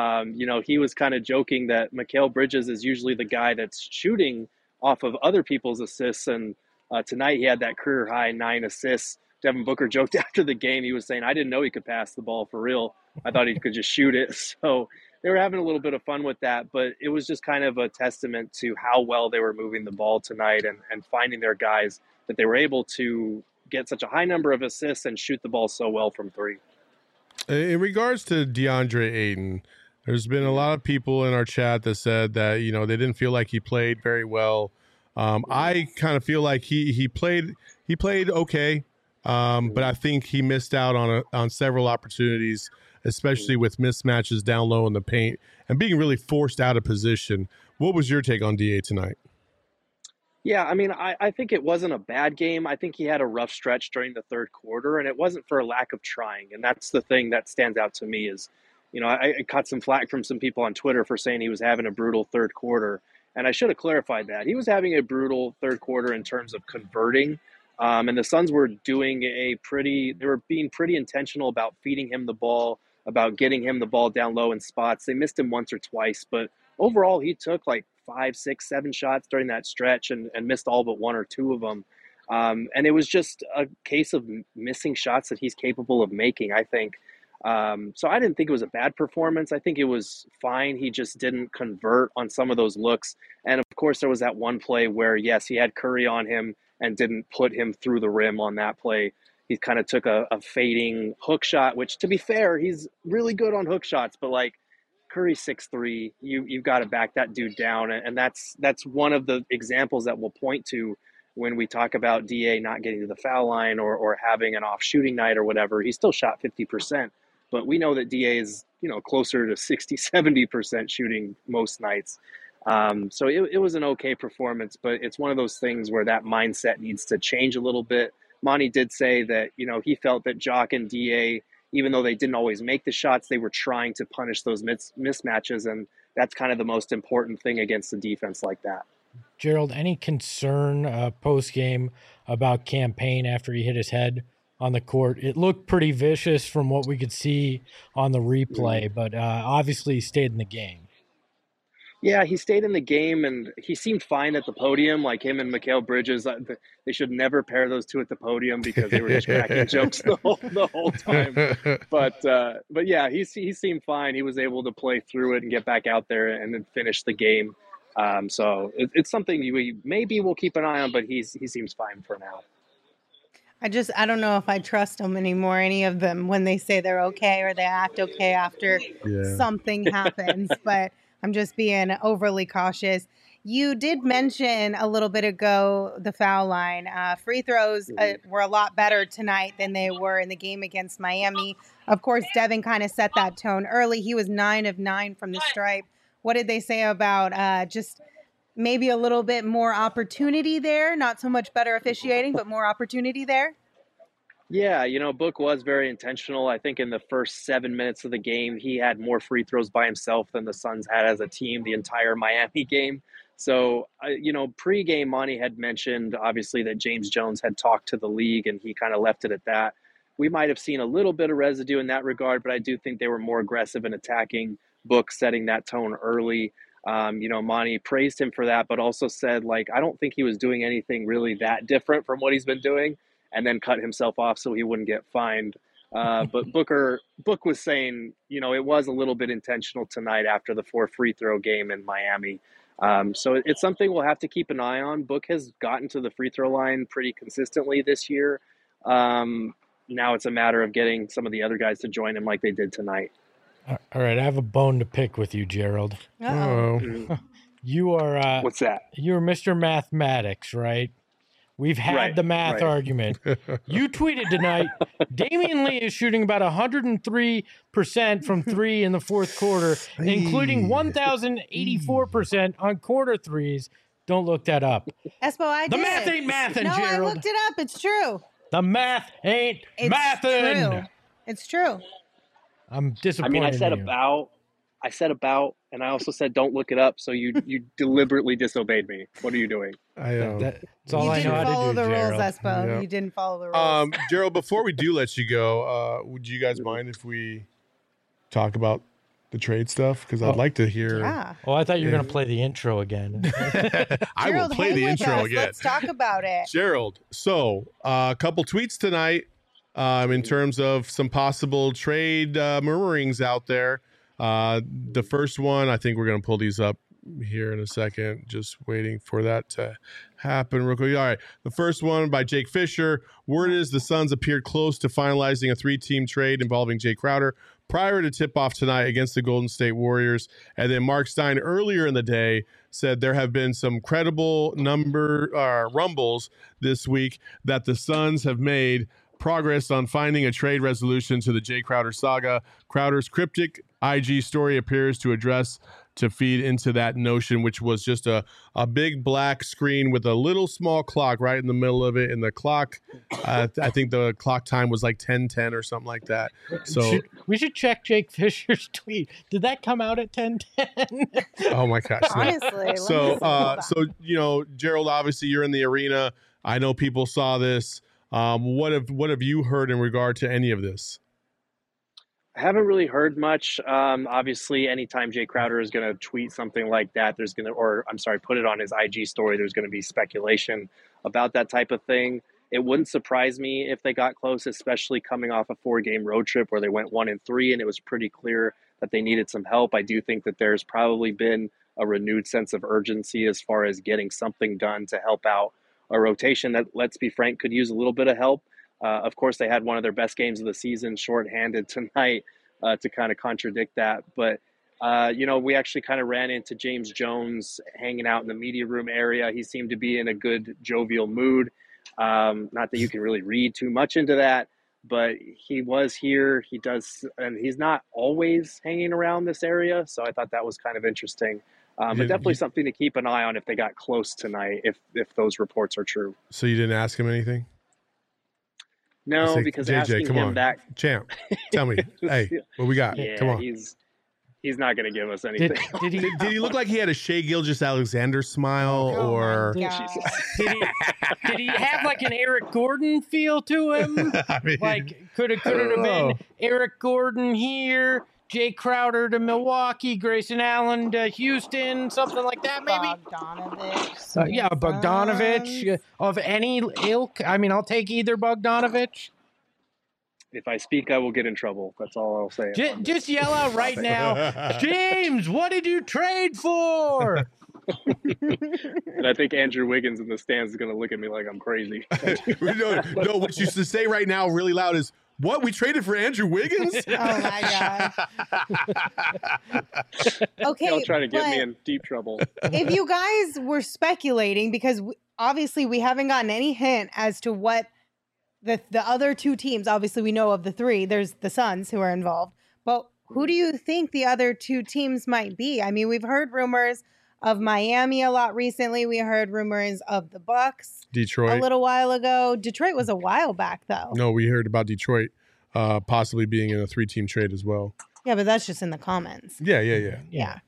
He was kind of joking that Mikal Bridges is usually the guy that's shooting off of other people's assists. And tonight he had that career high 9 assists. Devin Booker joked after the game. He was saying, I didn't know he could pass the ball for real. I thought he could just shoot it. So they were having a little bit of fun with that. But it was just kind of a testament to how well they were moving the ball tonight and finding their guys, that they were able to get such a high number of assists and shoot the ball so well from three. In regards to DeAndre Ayton, there's been a lot of people in our chat that said that, they didn't feel like he played very well. I kind of feel like he played okay, but I think he missed out on several opportunities, especially with mismatches down low in the paint and being really forced out of position. What was your take on DA tonight? Yeah, I mean, I think it wasn't a bad game. I think he had a rough stretch during the third quarter, and it wasn't for a lack of trying. And that's the thing that stands out to me is, I caught some flack from some people on Twitter for saying he was having a brutal third quarter. And I should have clarified that. He was having a brutal third quarter in terms of converting. And the Suns were doing they were being pretty intentional about feeding him the ball, about getting him the ball down low in spots. They missed him once or twice, but overall he took like 5, 6, 7 shots during that stretch and missed all but 1 or 2 of them. And it was just a case of missing shots that he's capable of making, I think. So I didn't think it was a bad performance. I think it was fine. He just didn't convert on some of those looks. And of course, there was that one play where, yes, he had Curry on him and didn't put him through the rim on that play. He kind of took a fading hook shot, which, to be fair, he's really good on hook shots, but like, Curry's 6'3", you've got to back that dude down. And that's one of the examples that we'll point to when we talk about DA not getting to the foul line or having an off shooting night or whatever. He still shot 50%, but we know that DA is, closer to 60, 70% shooting most nights. So it was an okay performance, but it's one of those things where that mindset needs to change a little bit. Monty did say that, he felt that Jock and DA, even though they didn't always make the shots, they were trying to punish those mismatches. And that's kind of the most important thing against a defense like that. Gerald, any concern post-game about Cam Payne after he hit his head on the court? It looked pretty vicious from what we could see on the replay, but obviously he stayed in the game. Yeah, he stayed in the game, and he seemed fine at the podium, like him and Mikal Bridges. They should never pair those two at the podium because they were just cracking jokes the whole time. But yeah, he seemed fine. He was able to play through it and get back out there and then finish the game. So it's something maybe we'll keep an eye on, but he seems fine for now. I don't know if I trust them anymore, any of them, when they say they're okay or they act okay after something happens. But I'm just being overly cautious. You did mention a little bit ago the foul line. Free throws were a lot better tonight than they were in the game against Miami. Of course, Devin kind of set that tone early. He was 9 of 9 from the stripe. What did they say about just maybe a little bit more opportunity there? Not so much better officiating, but more opportunity there? Yeah, Book was very intentional. I think in the first 7 minutes of the game, he had more free throws by himself than the Suns had as a team the entire Miami game. So, pre-game, Monty had mentioned, obviously, that James Jones had talked to the league, and he kind of left it at that. We might have seen a little bit of residue in that regard, but I do think they were more aggressive in attacking Book, setting that tone early. Monty praised him for that, but also said, I don't think he was doing anything really that different from what he's been doing, and then cut himself off so he wouldn't get fined. But Book was saying, it was a little bit intentional tonight after the 4 free throw game in Miami. So it's something we'll have to keep an eye on. Book has gotten to the free throw line pretty consistently this year. Now it's a matter of getting some of the other guys to join him like they did tonight. All right, I have a bone to pick with you, Gerald. Uh-oh. You are what's that? You're Mr. Mathematics, right? We've had Right, the math right. argument. You tweeted tonight, Damian Lee is shooting about 103% from three in the fourth quarter, including 1,084% on quarter threes. Don't look that up. Espo, I The did. math ain't mathin', No, I Gerald. looked it up. It's true. The math ain't It's mathin'. true. It's true. I'm I disappointed mean, I said in you. about, and I also said don't look it up. So you deliberately disobeyed me. What are you doing? That's all You I know didn't how follow to do, the Gerald. rules, Espo. Yeah. You didn't follow the rules. Gerald, before we do let you go, would you guys mind if we talk about the trade stuff? Because I'd like to hear. Yeah. Oh, I thought you were going to play the intro again. I will Gerald, play hang the with intro us. again. Let's talk about it. Gerald, so a couple tweets tonight in terms of some possible trade murmurings out there. The first one, I think we're going to pull these up here in a second. Just waiting for that to happen real quick. All right. The first one by Jake Fisher. Word is the Suns appeared close to finalizing a 3-team trade involving Jay Crowder prior to tip-off tonight against the Golden State Warriors. And then Mark Stein earlier in the day said there have been some credible rumbles this week that the Suns have made progress on finding a trade resolution to the Jay Crowder saga. Crowder's cryptic IG story appears to feed into that notion, which was just a big black screen with a little small clock right in the middle of it. And the clock, I think the clock time was like 10:10 or something like that. So we should check Jake Fisher's tweet. Did that come out at 10:10? oh my gosh. No. Honestly. So Gerald, obviously you're in the arena. I know people saw this. What have you heard in regard to any of this? I haven't really heard much. Obviously, anytime Jay Crowder is going to tweet something like that, put it on his IG story, there's going to be speculation about that type of thing. It wouldn't surprise me if they got close, especially coming off a 4-game road trip where they went 1-3, and it was pretty clear that they needed some help. I do think that there's probably been a renewed sense of urgency as far as getting something done to help out a rotation that, let's be frank, could use a little bit of help. Of course, they had one of their best games of the season shorthanded tonight to kind of contradict that. But, we actually kind of ran into James Jones hanging out in the media room area. He seemed to be in a good jovial mood. Not that you can really read too much into that, but he was here. And he's not always hanging around this area. So I thought that was kind of interesting. But definitely something to keep an eye on if they got close tonight, if those reports are true. So you didn't ask him anything? No, because JJ, asking come him on. back, Champ, tell me, hey, what we got? yeah, Come on. he's not going to give us anything. Did he look like he had a Shea Gilgeous-Alexander smile, Oh or my God. Did he have like an Eric Gordon feel to him? I mean, Like could it have been Eric Gordon here, Jay Crowder to Milwaukee, Grayson Allen to Houston, something like that, maybe? Bogdanovich. Bogdanovich of any ilk. I mean, I'll take either Bogdanovich. If I speak, I will get in trouble. That's all I'll say. Just yell out right now, James, what did you trade for? And I think Andrew Wiggins in the stands is going to look at me like I'm crazy. no, what you should say right now really loud is, what, we traded for Andrew Wiggins? Oh my God. Okay. Y'all trying to get me but in deep trouble. if you guys were speculating, because obviously we haven't gotten any hint as to what the other two teams, obviously we know of the three, there's the Suns who are involved, but who do you think the other two teams might be? I mean, we've heard rumors of Miami a lot recently. We heard rumors of the Bucks Detroit. a little while ago. Detroit was a while back though. No, we heard about Detroit possibly being in a 3-team trade as well. Yeah, but that's just in the comments. Yeah. Yeah.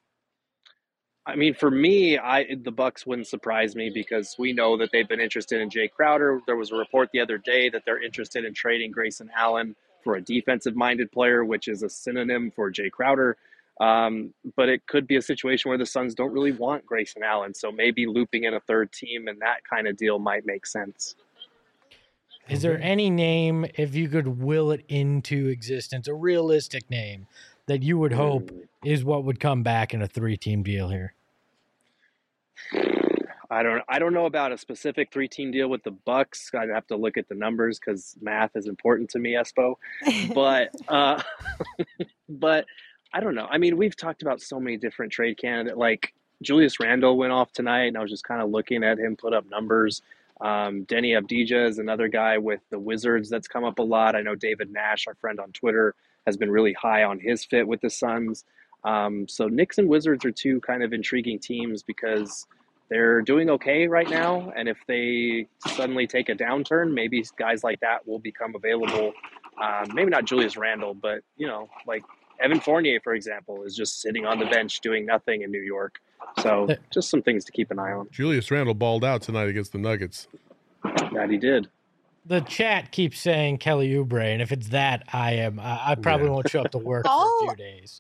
I mean, for me, the Bucks wouldn't surprise me because we know that they've been interested in Jay Crowder. There was a report the other day that they're interested in trading Grayson Allen for a defensive-minded player, which is a synonym for Jay Crowder. But it could be a situation where the Suns don't really want Grayson Allen, so maybe looping in a third team and that kind of deal might make sense. Is there any name, if you could will it into existence, a realistic name that you would hope is what would come back in a 3-team deal here? I don't know about a specific 3-team deal with the Bucks. I'd have to look at the numbers because math is important to me, Espo. But but I don't know. I mean, we've talked about so many different trade candidates. Like Julius Randle went off tonight, and I was just kind of looking at him put up numbers. Denny Abdija is another guy with the Wizards that's come up a lot. I know David Nash, our friend on Twitter, has been really high on his fit with the Suns. So Knicks and Wizards are two kind of intriguing teams because they're doing okay right now. And if they suddenly take a downturn, maybe guys like that will become available. Maybe not Julius Randle, but, like Evan Fournier, for example, is just sitting on the bench doing nothing in New York. So just some things to keep an eye on. Julius Randle balled out tonight against the Nuggets. That he did. The chat keeps saying Kelly Oubre, and if it's that, I probably won't show up to work for a few days.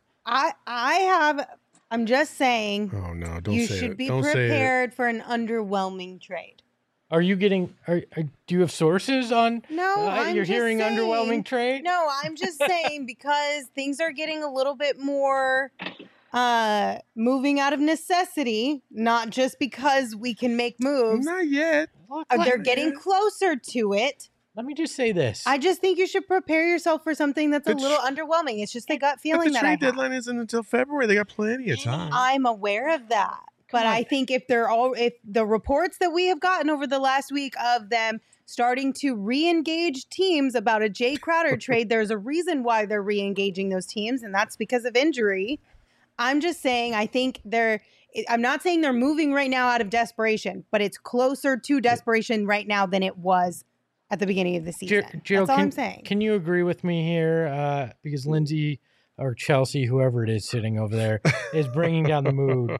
I'm just saying. Oh no! Don't you say should it. be Don't prepared for an underwhelming trade. Are you getting? Do you have sources on? No, I'm you're just hearing saying, underwhelming trade. No, I'm just saying because things are getting a little bit more moving out of necessity, not just because we can make moves. Not yet. They're getting closer to it. Let me just say this. I just think you should prepare yourself for something that's a little underwhelming. It's just a gut feeling But the that I trade have. deadline isn't until February. They got plenty of time. I'm aware of that. But I think if the reports that we have gotten over the last week of them starting to re-engage teams about a Jay Crowder trade, there's a reason why they're re-engaging those teams, and that's because of injury. I'm just saying, I'm not saying they're moving right now out of desperation, but it's closer to desperation right now than it was at the beginning of the season. Gerald, that's all I'm saying. Can you agree with me here? Because Lindsay or Chelsea, whoever it is sitting over there, is bringing down the mood.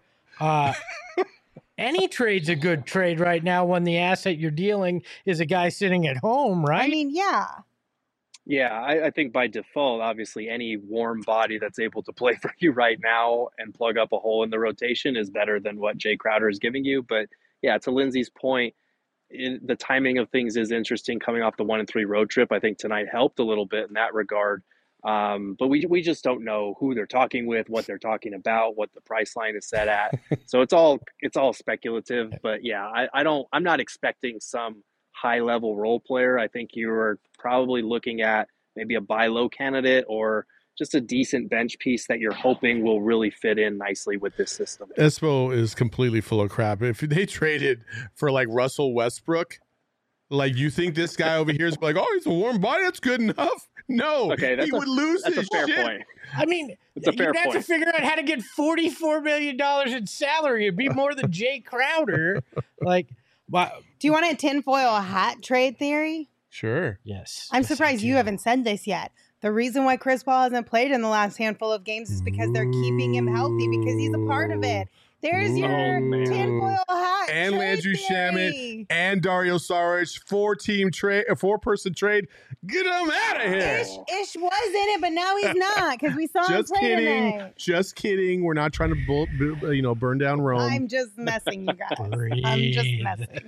Any trade's a good trade right now when the asset you're dealing is a guy sitting at home, right? I mean, yeah. Yeah, I think by default, obviously, any warm body that's able to play for you right now and plug up a hole in the rotation is better than what Jay Crowder is giving you. But yeah, to Lindsay's point, the timing of things is interesting coming off the 1-3 road trip. I think tonight helped a little bit in that regard. But we just don't know who they're talking with, what they're talking about, what the price line is set at. So it's all speculative. But yeah, I'm not expecting some high level role player. I think you are probably looking at maybe a buy low candidate or just a decent bench piece that you're hoping will really fit in nicely with this system. Espo is completely full of crap. If they traded for like Russell Westbrook, like you think this guy over here is like, oh, he's a warm body, that's good enough. No, okay, he would lose that's his a fair shit. point. I mean, it's a fair you'd have point. to figure out how to get $44 million in salary. It'd be more than Jay Crowder. Like, wow. Do you want a tinfoil hat trade theory? Sure. Yes. I'm yes, I surprised you do. haven't said this yet. The reason why Chris Paul hasn't played in the last handful of games is because they're keeping him healthy because he's a part of it. There's your tinfoil hat And trade Landry theory. Shamet and Dario Saric, 4-person trade. Get him out of here. Ish was in it, but now he's not because we saw him play tonight. Just kidding. We're not trying to burn down Rome. I'm just messing, you guys. I'm just messing.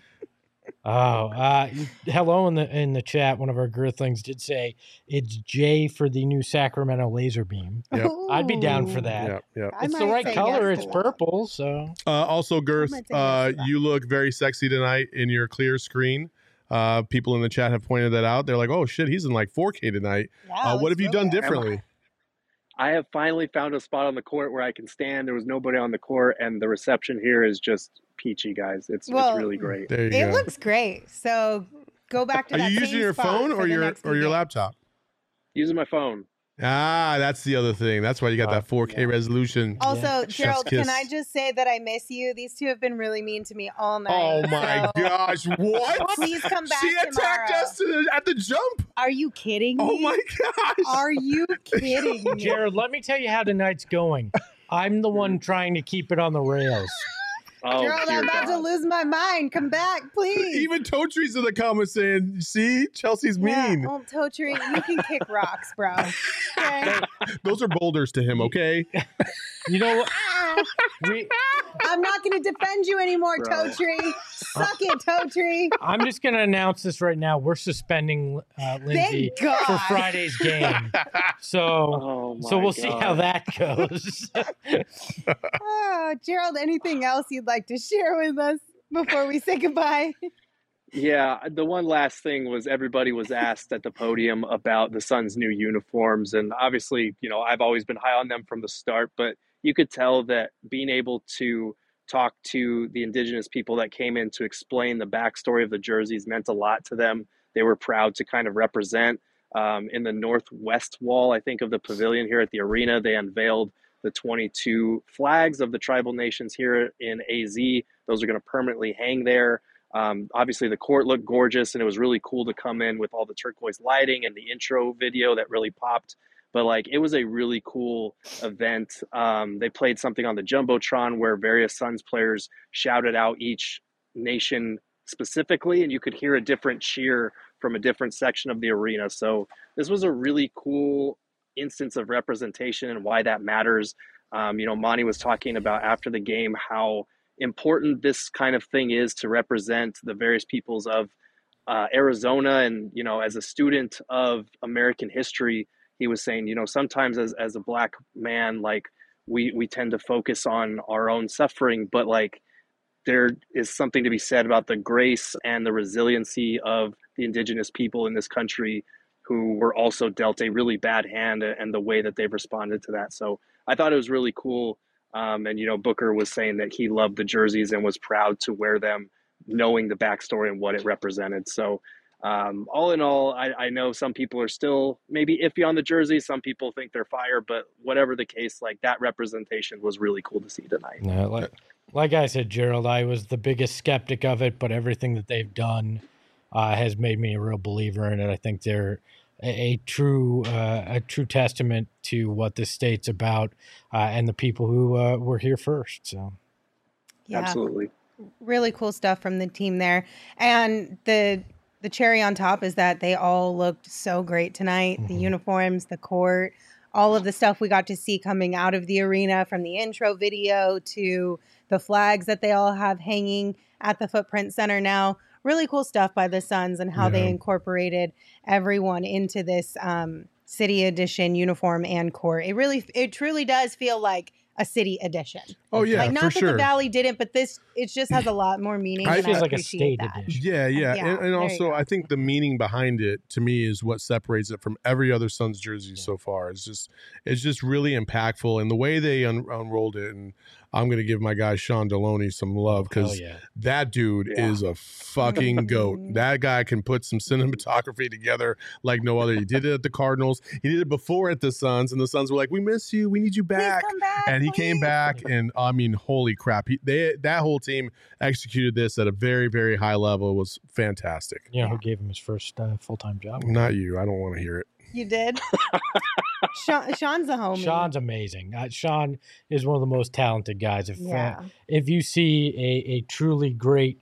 Hello in the chat. One of our Girthlings did say it's Jay for the new Sacramento laser beam. Yep. I'd be down for that. Yep. It's the right color. It's purple. So also, Girth, might say yes to that. you look very sexy tonight in your clear screen. People in the chat have pointed that out. They're like, "Oh shit, he's in like 4K tonight." Yeah, What have you done differently? I have finally found a spot on the court where I can stand. There was nobody on the court, and the reception here is just peachy, guys. It's really great. There you It go. looks great. So go back to Are that you same using your spot phone for or the your next few games. laptop? Using my phone. That's the other thing. That's why you got that 4K resolution. Also, Gerald, Chef's can I kiss. just say that I miss you? These two have been really mean to me all night. Oh my so gosh! What? Please come back She attacked tomorrow. us at the jump. Are you kidding me? Oh my gosh! Are you kidding me? Jared, let me tell you how tonight's going. I'm the one trying to keep it on the rails. Oh, Gerald, dear I'm about to God. lose my mind. Come back, please. Even Totre's in the comments saying, "See, Chelsea's mean." Yeah, Totri, you can kick rocks, bro. Okay? Those are boulders to him. Okay. You know what? I'm not going to defend you anymore, Bro. Totri. Suck it, Totri. I'm just going to announce this right now. We're suspending Lindsay Thank God. for Friday's game. So, Oh, so my we'll see how God. that goes. Oh, Gerald, anything else you'd like to share with us before we say goodbye? Yeah, the one last thing was everybody was asked at the podium about the Suns' new uniforms. And obviously, I've always been high on them from the start, but you could tell that being able to talked to the indigenous people that came in to explain the backstory of the jerseys meant a lot to them. They were proud to kind of represent. In the northwest wall, I think, of the pavilion here at the arena, they unveiled the 22 flags of the tribal nations here in AZ. Those are going to permanently hang there. Obviously, the court looked gorgeous, and it was really cool to come in with all the turquoise lighting and the intro video that really popped. But like, it was a really cool event. They played something on the Jumbotron where various Suns players shouted out each nation specifically, and you could hear a different cheer from a different section of the arena. So this was a really cool instance of representation and why that matters. Monty was talking about after the game how important this kind of thing is to represent the various peoples of Arizona. And, as a student of American history, he was saying, sometimes as a Black man, like we tend to focus on our own suffering, but like there is something to be said about the grace and the resiliency of the indigenous people in this country who were also dealt a really bad hand, and the way that they've responded to that. So I thought it was really cool. And Booker was saying that he loved the jerseys and was proud to wear them, knowing the backstory and what it represented. So all in all, I know some people are still maybe iffy on the jersey. Some people think they're fire, but whatever the case, like that representation was really cool to see tonight. No, like I said, Gerald, I was the biggest skeptic of it, but everything that they've done has made me a real believer in it. I think they're a true testament to what this state's about and the people who were here first. So, yeah, absolutely, really cool stuff from the team there. And the cherry on top is that they all looked so great tonight. Mm-hmm. The uniforms, the court, all of the stuff we got to see coming out of the arena, from the intro video to the flags that they all have hanging at the Footprint Center now. Really cool stuff by the Suns and how they incorporated everyone into this city edition uniform and court. It truly does feel like a city edition. Oh yeah, like not for that sure. The Valley didn't, but it just has a lot more meaning. It feels I like a state that. edition. Yeah. And also, I think the meaning behind it, to me, is what separates it from every other Suns jersey so far. It's just really impactful, and the way they unrolled it. And I'm going to give my guy Sean Deloney some love, because that dude is a fucking goat. That guy can put some cinematography together like no other. He did it at the Cardinals. He did it before at the Suns, and the Suns were like, "We miss you. We need you back." Please come back, and he came back, and I mean, holy crap! That whole team executed this at a very, very high level. It was fantastic. You know who gave him his first full-time job? Not you. I don't want to hear it. You did? Sean's a homie. Sean's amazing. Sean is one of the most talented guys. If you see a truly great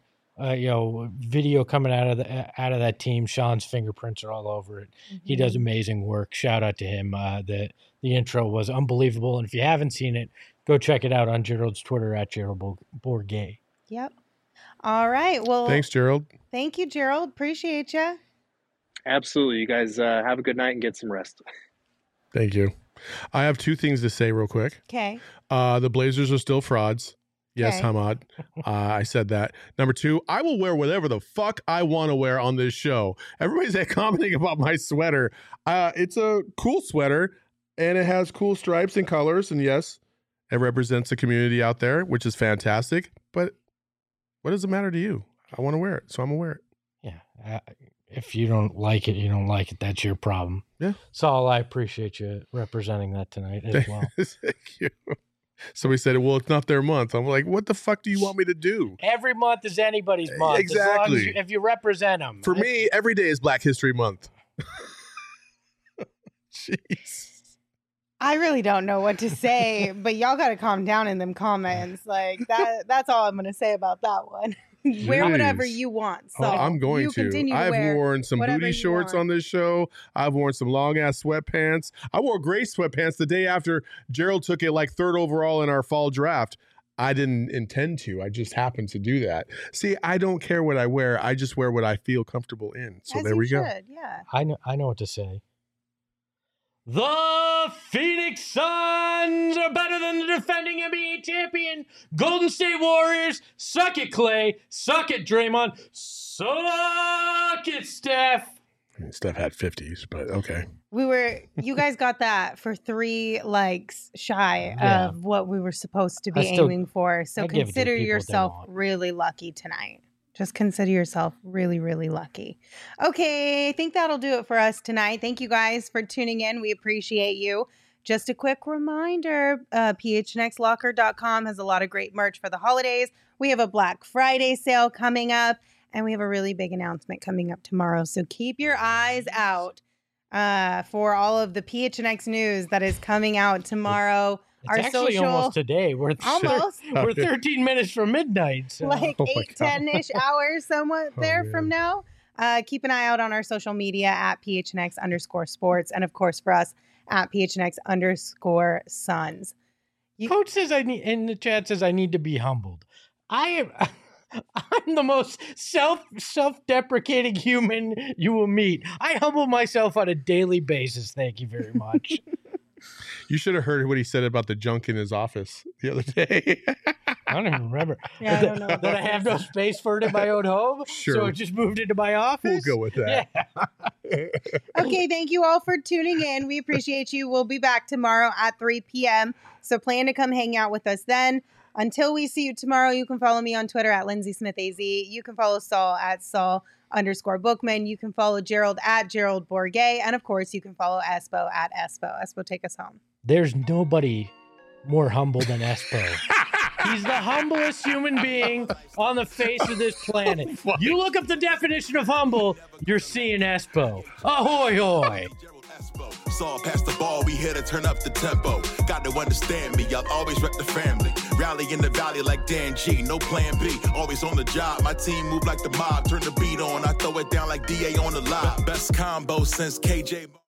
video coming out of that team, Sean's fingerprints are all over it. Mm-hmm. He does amazing work. Shout out to him. The intro was unbelievable, and if you haven't seen it, go check it out on Gerald's Twitter at Gerald Bourget. Yep. All right. Well, thanks, Gerald. Thank you, Gerald. Appreciate you. Absolutely. You guys have a good night and get some rest. Thank you. I have two things to say real quick. Okay. The Blazers are still frauds. Yes, Hamad. I said that. Number two, I will wear whatever the fuck I want to wear on this show. Everybody's commenting about my sweater. It's a cool sweater, and it has cool stripes and colors. And yes, it represents the community out there, which is fantastic. But what does it matter to you? I want to wear it, so I'm going to wear it. Yeah. If you don't like it, you don't like it. That's your problem. Yeah. Saul, I appreciate you representing that tonight as well. Thank you. Somebody said, well, it's not their month. I'm like, what the fuck do you want me to do? Every month is anybody's month. Exactly. As long as if you represent them. For me, every day is Black History Month. Jeez. I really don't know what to say, but y'all got to calm down in them comments. Like that's all I'm going to say about that one. Wear whatever you want. So I'm going to. I've worn some booty shorts on this show. I've worn some long ass sweatpants. I wore gray sweatpants the day after Gerald took it like third overall in our fall draft. I didn't intend to. I just happened to do that. See, I don't care what I wear. I just wear what I feel comfortable in. So there we go. Yeah. I know what to say. The Phoenix Suns are better than the defending NBA champion Golden State Warriors. Suck it, Clay. Suck it, Draymond. Suck it, Steph. I mean, Steph had 50s, but okay. You guys got that for 3 likes shy of what we were supposed to be aiming for. So consider yourself really lucky tonight. Just consider yourself really, really lucky. Okay, I think that'll do it for us tonight. Thank you guys for tuning in. We appreciate you. Just a quick reminder, phnxlocker.com has a lot of great merch for the holidays. We have a Black Friday sale coming up, and we have a really big announcement coming up tomorrow. So keep your eyes out for all of the PHNX news that is coming out tomorrow. It's actually almost today. We're 13 minutes from midnight. So. Like 8-10-ish hours somewhat there from now. Keep an eye out on our social media at PHNX_sports. And of course for us at PHNX_Suns. Coach says in the chat says I need to be humbled. I'm the most self-deprecating human you will meet. I humble myself on a daily basis. Thank you very much. You should have heard what he said about the junk in his office the other day. I don't even remember. Yeah, I don't know. That I have no space for it in my own home. Sure. So it just moved into my office. We'll go with that. Yeah. Okay, thank you all for tuning in. We appreciate you. We'll be back tomorrow at 3 p.m. So plan to come hang out with us then. Until we see you tomorrow, you can follow me on Twitter at LindsaySmithAZ. You can follow Saul at Saul_Bookman. You can follow Gerald at Gerald Bourget. And of course, you can follow Espo at Espo. Espo, take us home. There's nobody more humble than Espo. He's the humblest human being on the face of this planet. You look up the definition of humble, you're seeing Espo. Ahoy, hoy. Saw past the ball, we here to turn up the tempo. Got to understand me, I'll always rep the family. Rally in the valley like Dan G, no plan B. Always on the job, my team move like the mob. Turn the beat on, I throw it down like DA on the live. Best combo since KJ.